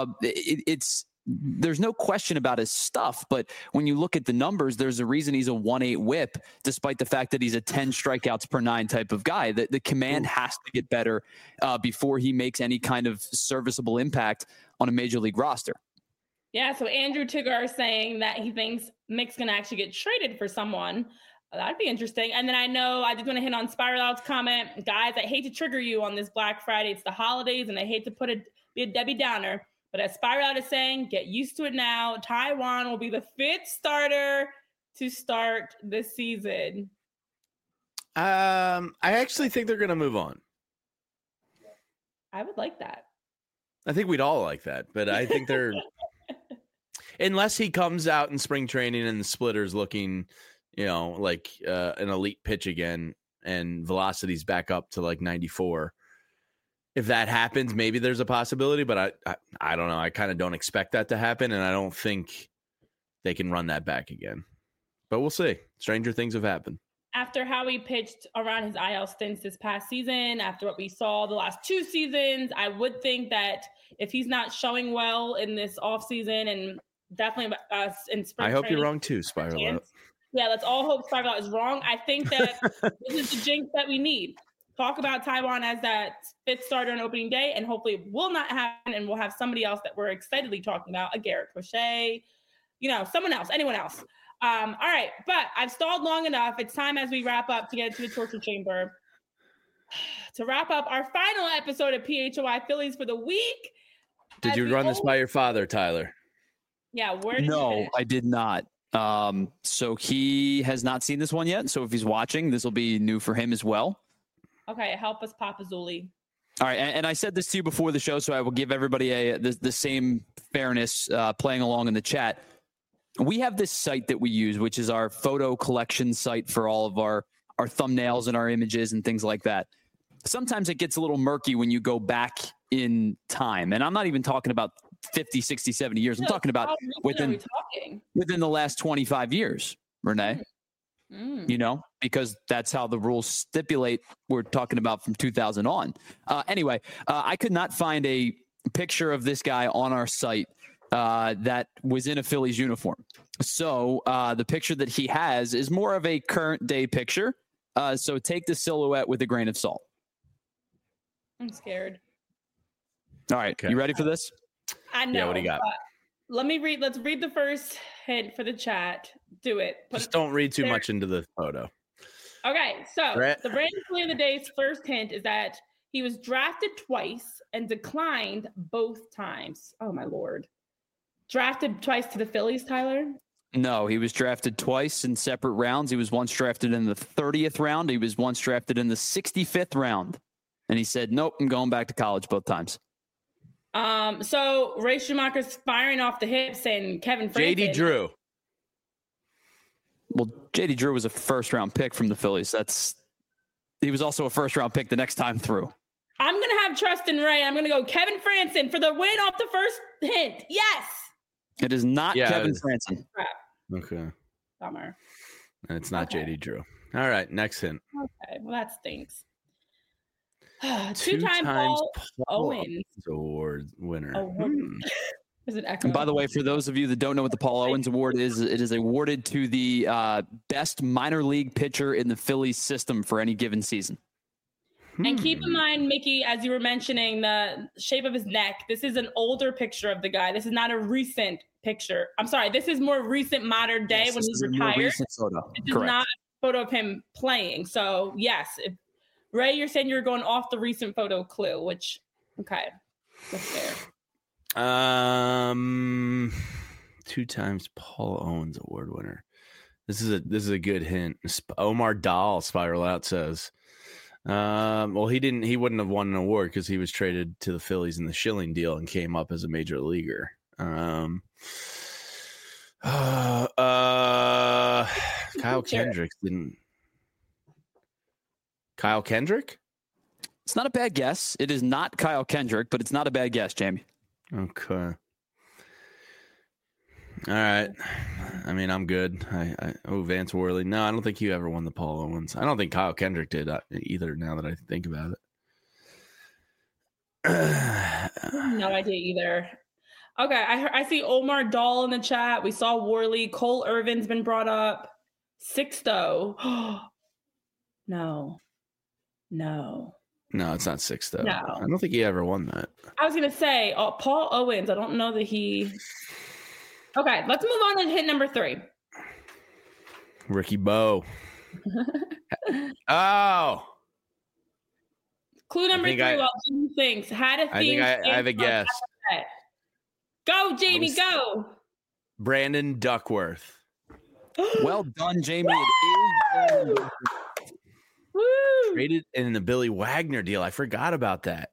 there's no question about his stuff, but when you look at the numbers, there's a reason he's a 1.8 whip, despite the fact that he's a 10 strikeouts per 9 type of guy. The command has to get better before he makes any kind of serviceable impact on a major league roster. Yeah, so Andrew Tigger is saying that he thinks Mick's going to actually get traded for someone. That'd be interesting. And then I know I just want to hit on Spiral Out's comment. Guys, I hate to trigger you on this Black Friday. It's the holidays, and I hate to be a Debbie Downer. But as Spiral Out is saying, get used to it now. Taijuan will be the 5th starter to start this season. I actually think they're going to move on. I would like that. I think we'd all like that, but I think they're unless he comes out in spring training and the splitter's looking, like an elite pitch again and velocity's back up to like 94. If that happens, maybe there's a possibility, but I don't know. I kind of don't expect that to happen, and I don't think they can run that back again. But we'll see. Stranger things have happened. After how he pitched around his IL stints this past season, after what we saw the last 2 seasons, I would think that if he's not showing well in this offseason and definitely in spring I hope training, you're wrong too, Spiral Out. Yeah, let's all hope Spiral Out is wrong. I think that this is the jinx that we need. Talk about Taijuan as that 5th starter on opening day, and hopefully it will not happen, and we'll have somebody else that we're excitedly talking about, a Garrett Crochet, someone else, anyone else. All right, but I've stalled long enough. It's time as we wrap up to get into the torture chamber. To wrap up our final episode of PHOI Phillies for the week. Did you run this by your father, Tyler? Yeah, where did you No, finish? I did not. So he has not seen this one yet. So if he's watching, this will be new for him as well. Okay, help us, Papa Zuli. All right, and I said this to you before the show, so I will give everybody the same fairness playing along in the chat. We have this site that we use, which is our photo collection site for all of our thumbnails and our images and things like that. Sometimes it gets a little murky when you go back in time. And I'm not even talking about 50, 60, 70 years. I'm talking about within the last 25 years, Renee. Because that's how the rules stipulate. We're talking about from 2000 on. Anyway, I could not find a picture of this guy on our site that was in a Phillies uniform. So the picture that he has is more of a current day picture. So take the silhouette with a grain of salt. I'm scared. All right. Okay. You ready for this? I know. Yeah, what do you got? Let's read the first hint for the chat. Do it. Just don't read too much into the photo. Okay. So the Brandon Play of the Day's first hint is that he was drafted twice and declined both times. Oh, my Lord. Drafted twice to the Phillies, Tyler? No, he was drafted twice in separate rounds. He was once drafted in the 30th round. He was once drafted in the 65th round. And he said, nope, I'm going back to college both times. So Ray Schumacher's firing off the hips and Kevin Franklin. JD Drew. Well, JD Drew was a first-round pick from the Phillies. He was also a first-round pick the next time through. I'm going to have trust in Ray. I'm going to go Kevin Franklin for the win off the first hint. Yes. It is not Kevin Franklin. Okay. Bummer. It's not JD Drew. All right, next hint. Okay, well, that stinks. Two-time Paul Owens Award winner. Is it and by the way, for those of you that don't know what the Paul Owens Award is, it is awarded to the best minor league pitcher in the Phillies system for any given season. And keep in mind, Mickey, as you were mentioning, the shape of his neck, this is an older picture of the guy. This is not a recent picture. I'm sorry. This is more recent modern day when he's retired. This is not a photo of him playing. So, yes, Ray, you're saying you're going off the recent photo clue, which, okay, that's fair. 2 times Paul Owens Award winner. This is a good hint. Omar Dahl, Spiral Out says. Well, he wouldn't have won an award because he was traded to the Phillies in the Schilling deal and came up as a major leaguer. Kyle Kendrick didn't. Kyle Kendrick? It's not a bad guess. It is not Kyle Kendrick, but it's not a bad guess, Jamie. Okay. All right. I mean, I'm good. Vance Worley. No, I don't think he ever won the Paul Owens. I don't think Kyle Kendrick did either, now that I think about it. No idea either. Okay, I see Omar Dahl in the chat. We saw Worley. Cole Irvin's been brought up. Sixto. No, it's not Sixto. No. I don't think he ever won that. I was going to say, Paul Owens. I don't know that he... Okay, let's move on to hit number 3. Ricky Bowe. Oh. Clue number 3, while Jamie thinks. Had a theme. I have a guess. Go, Jamie, go. Brandon Duckworth. Well done, Jamie. Woo! Traded in the Billy Wagner deal. I forgot about that.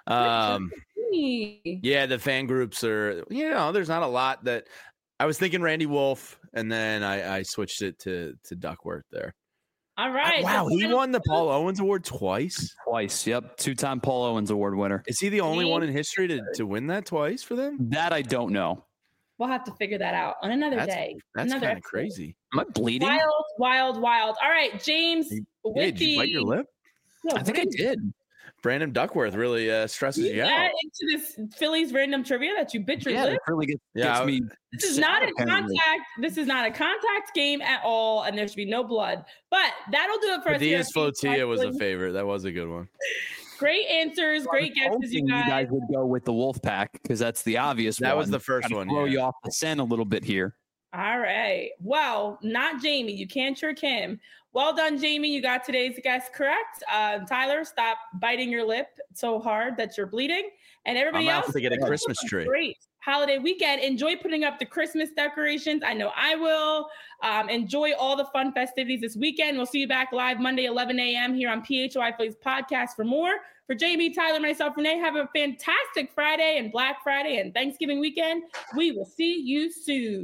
Yeah, the fan groups are, there's not a lot that I was thinking Randy Wolf, and then I switched it to Duckworth there. All right. Wow, he won the Paul Owens Award twice? Twice, yep. 2-time Paul Owens Award winner. Is he the only one in history to win that twice for them? That I don't know. We'll have to figure that out on another day. That's kind of crazy. Am I bleeding? Wild. All right, James. Hey, did you bite your lip? No, I think I did. Brandon Duckworth really stresses you out. Into this Phillies random trivia that you bit your lip. Really gets me. This is not a contact. This is not a contact game at all, and there should be no blood. But that'll do it for us. Diaz Flotilla was a favorite. That was a good one. Great answers, great guesses, you guys. You guys would go with the Wolfpack because that's the obvious one. That was the first one. Throw you off the scent a little bit here. All right. Well, not Jamie. You can't trick him. Well done, Jamie. You got today's guess correct. Tyler, stop biting your lip so hard that you're bleeding. And everybody else, to get a Christmas tree. Great holiday weekend. Enjoy putting up the Christmas decorations. I know I will. Enjoy all the fun festivities this weekend. We'll see you back live Monday, 11 a.m. here on PHY Phillies podcast for more. For Jamie, Tyler, myself, Renee, have a fantastic Friday and Black Friday and Thanksgiving weekend. We will see you soon.